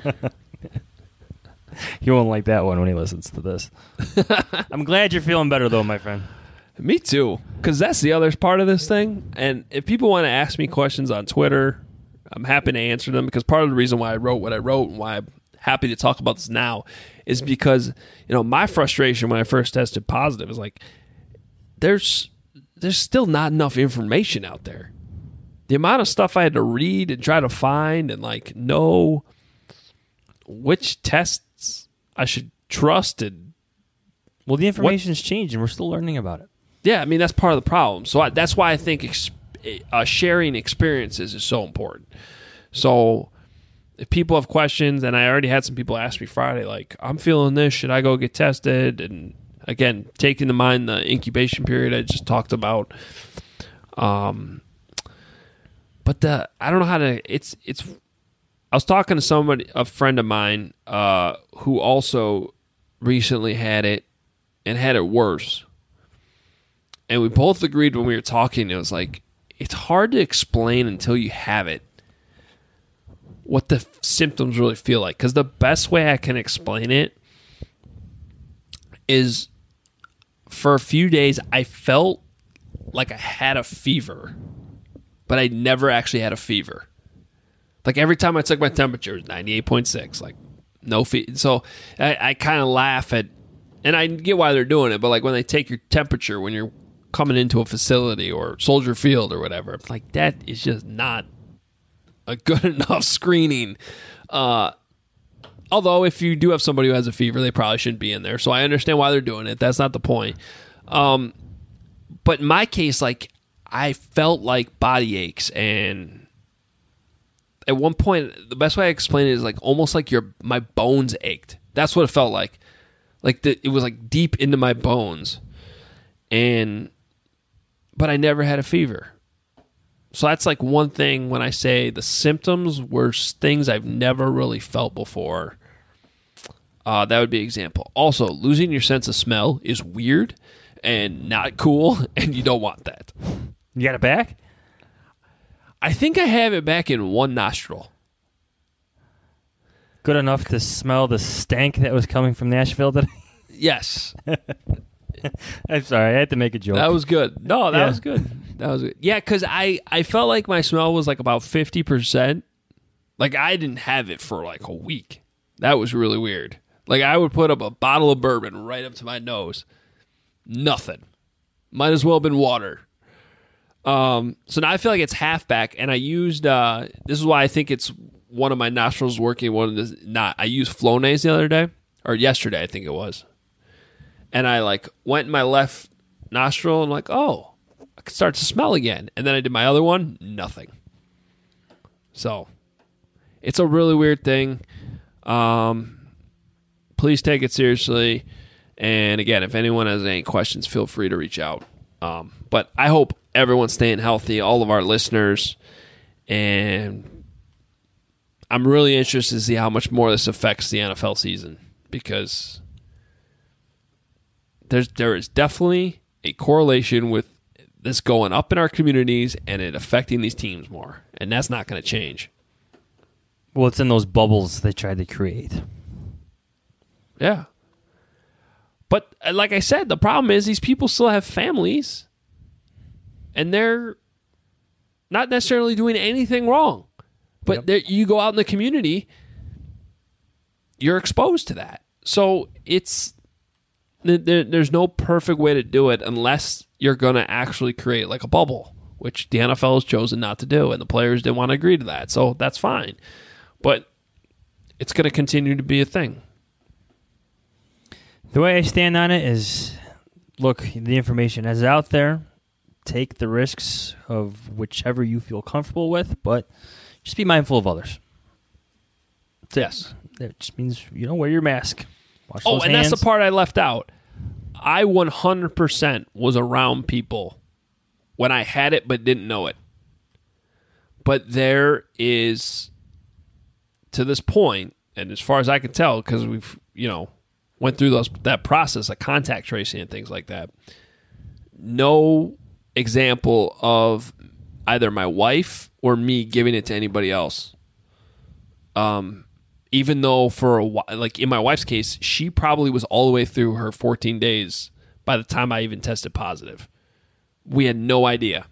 He won't like that one when he listens to this. I'm glad you're feeling better, though, my friend. Me too, because that's the other part of this thing. And if people want to ask me questions on Twitter, I'm happy to answer them, because part of the reason why I wrote what I wrote and why I'm happy to talk about this now is because, you know, my frustration when I first tested positive is like, there's there's still not enough information out there. The amount of stuff I had to read and try to find and like know which tests I should trust and well, the information's changed and we're still learning about it. Yeah, I mean, that's part of the problem. So I, that's why I think ex- uh, sharing experiences is so important. So if people have questions, and I already had some people ask me Friday, like, I'm feeling this, should I go get tested? And again, taking to mind the incubation period I just talked about. Um, but the I don't know how to. It's it's. I was talking to somebody, a friend of mine, uh, who also recently had it and had it worse. And we both agreed when we were talking, it was like, it's hard to explain until you have it what the symptoms really feel like. Because the best way I can explain it is for a few days, I felt like I had a fever, but I never actually had a fever. Like every time I took my temperature, it was ninety-eight point six. Like, no fever. So I, I kind of laugh at, and I get why they're doing it, but like when they take your temperature when you're coming into a facility or Soldier Field or whatever, like that is just not a good enough screening. Uh, although if you do have somebody who has a fever, they probably shouldn't be in there. So I understand why they're doing it. That's not the point. Um, but in my case, like I felt like body aches, and at one point, the best way I explain it is like almost like your my bones ached. That's what it felt like. Like the, it was like deep into my bones, and but I never had a fever. So that's like one thing when I say the symptoms were things I've never really felt before. Uh, that would be an example. Also, losing your sense of smell is weird and not cool, and you don't want that. You got it back? I think I have it back in one nostril. Good enough to smell the stank that was coming from Nashville today? Yes. I'm sorry. I had to make a joke. That was good. No, that Yeah. was good. That was good. Yeah, because I, I felt like my smell was like about fifty percent. Like I didn't have it for like a week. That was really weird. Like I would put up a bottle of bourbon right up to my nose. Nothing. Might as well have been water. Um, so now I feel like it's half back, and I used, uh, this is why I think it's one of my nostrils working, one of the, not, I used Flonase the other day, or yesterday I think it was. And I like went in my left nostril and like, oh, I could start to smell again. And then I did my other one, nothing. So it's a really weird thing. Um, please take it seriously. And again, if anyone has any questions, feel free to reach out. Um, but I hope everyone's staying healthy, all of our listeners. And I'm really interested to see how much more this affects the N F L season, because there's there is definitely a correlation with this going up in our communities and it affecting these teams more. And that's not going to change. Well, it's in those bubbles they tried to create. Yeah. But like I said, the problem is these people still have families, and they're not necessarily doing anything wrong. But yep. you go out in the community, you're exposed to that. So it's there, there's no perfect way to do it unless you're going to actually create like a bubble, which the N F L has chosen not to do, and the players didn't want to agree to that. So that's fine. But it's going to continue to be a thing. The way I stand on it is, look, the information is out there. Take the risks of whichever you feel comfortable with, but just be mindful of others. Yes. That just means, you know, wear your mask. Wash oh, those and hands. That's the part I left out. I one hundred percent was around people when I had it but didn't know it. But there is, to this point, and as far as I can tell, because we've, you know, went through those that process of contact tracing and things like that, no example of either my wife or me giving it to anybody else. Um, even though for a while, like in my wife's case, she probably was all the way through her fourteen days by the time I even tested positive. We had no idea.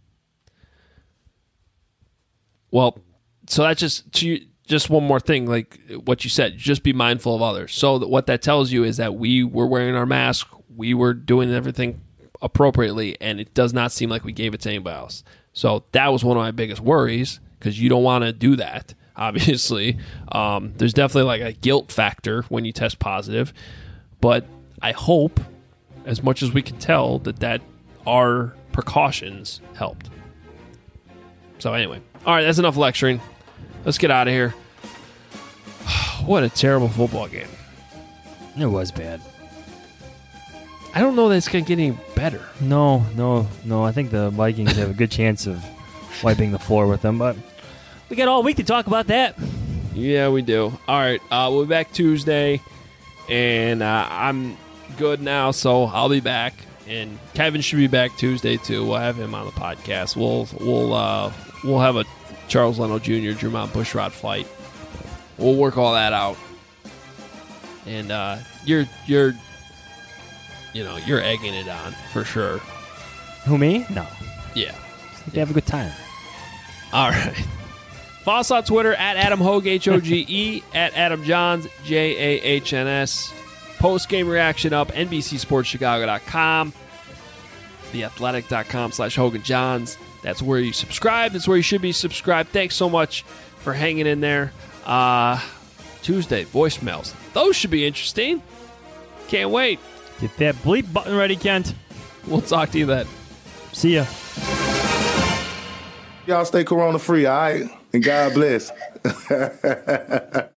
Well, so that's just to, just one more thing, like what you said, just be mindful of others. So that what that tells you is that we were wearing our mask, we were doing everything appropriately, and it does not seem like we gave it to anybody else. So that was one of my biggest worries, because you don't want to do that, obviously. Um, there's definitely like a guilt factor when you test positive, but I hope, as much as we can tell, that, that our precautions helped. So anyway, all right, that's enough lecturing. Let's get out of here. What a terrible football game. It was bad. I don't know that it's going to get any better. No, no, no. I think the Vikings have a good chance of wiping the floor with them, but we got all week to talk about that. Yeah, we do. All right, uh, we'll be back Tuesday, and uh, I'm good now, so I'll be back. And Kevin should be back Tuesday, too. We'll have him on the podcast. We'll, we'll, uh, we'll have a Charles Leno Junior, Drew Mount Bushrod fight. We'll work all that out. And uh, you're you're you know, you're egging it on for sure. Who, me? No. Yeah. They have a good time. All right. Follow us on Twitter at Adam Hoge, H O G E, at Adam Johns, J A H N S. Post-game reaction up, N B C Sports Chicago dot com, the athletic dot com slash Hogan Johns. That's where you subscribe. That's where you should be subscribed. Thanks so much for hanging in there. Uh, Tuesday, voicemails. Those should be interesting. Can't wait. Get that bleep button ready, Kent. We'll talk to you then. See ya. Y'all stay corona free, all right? And God bless.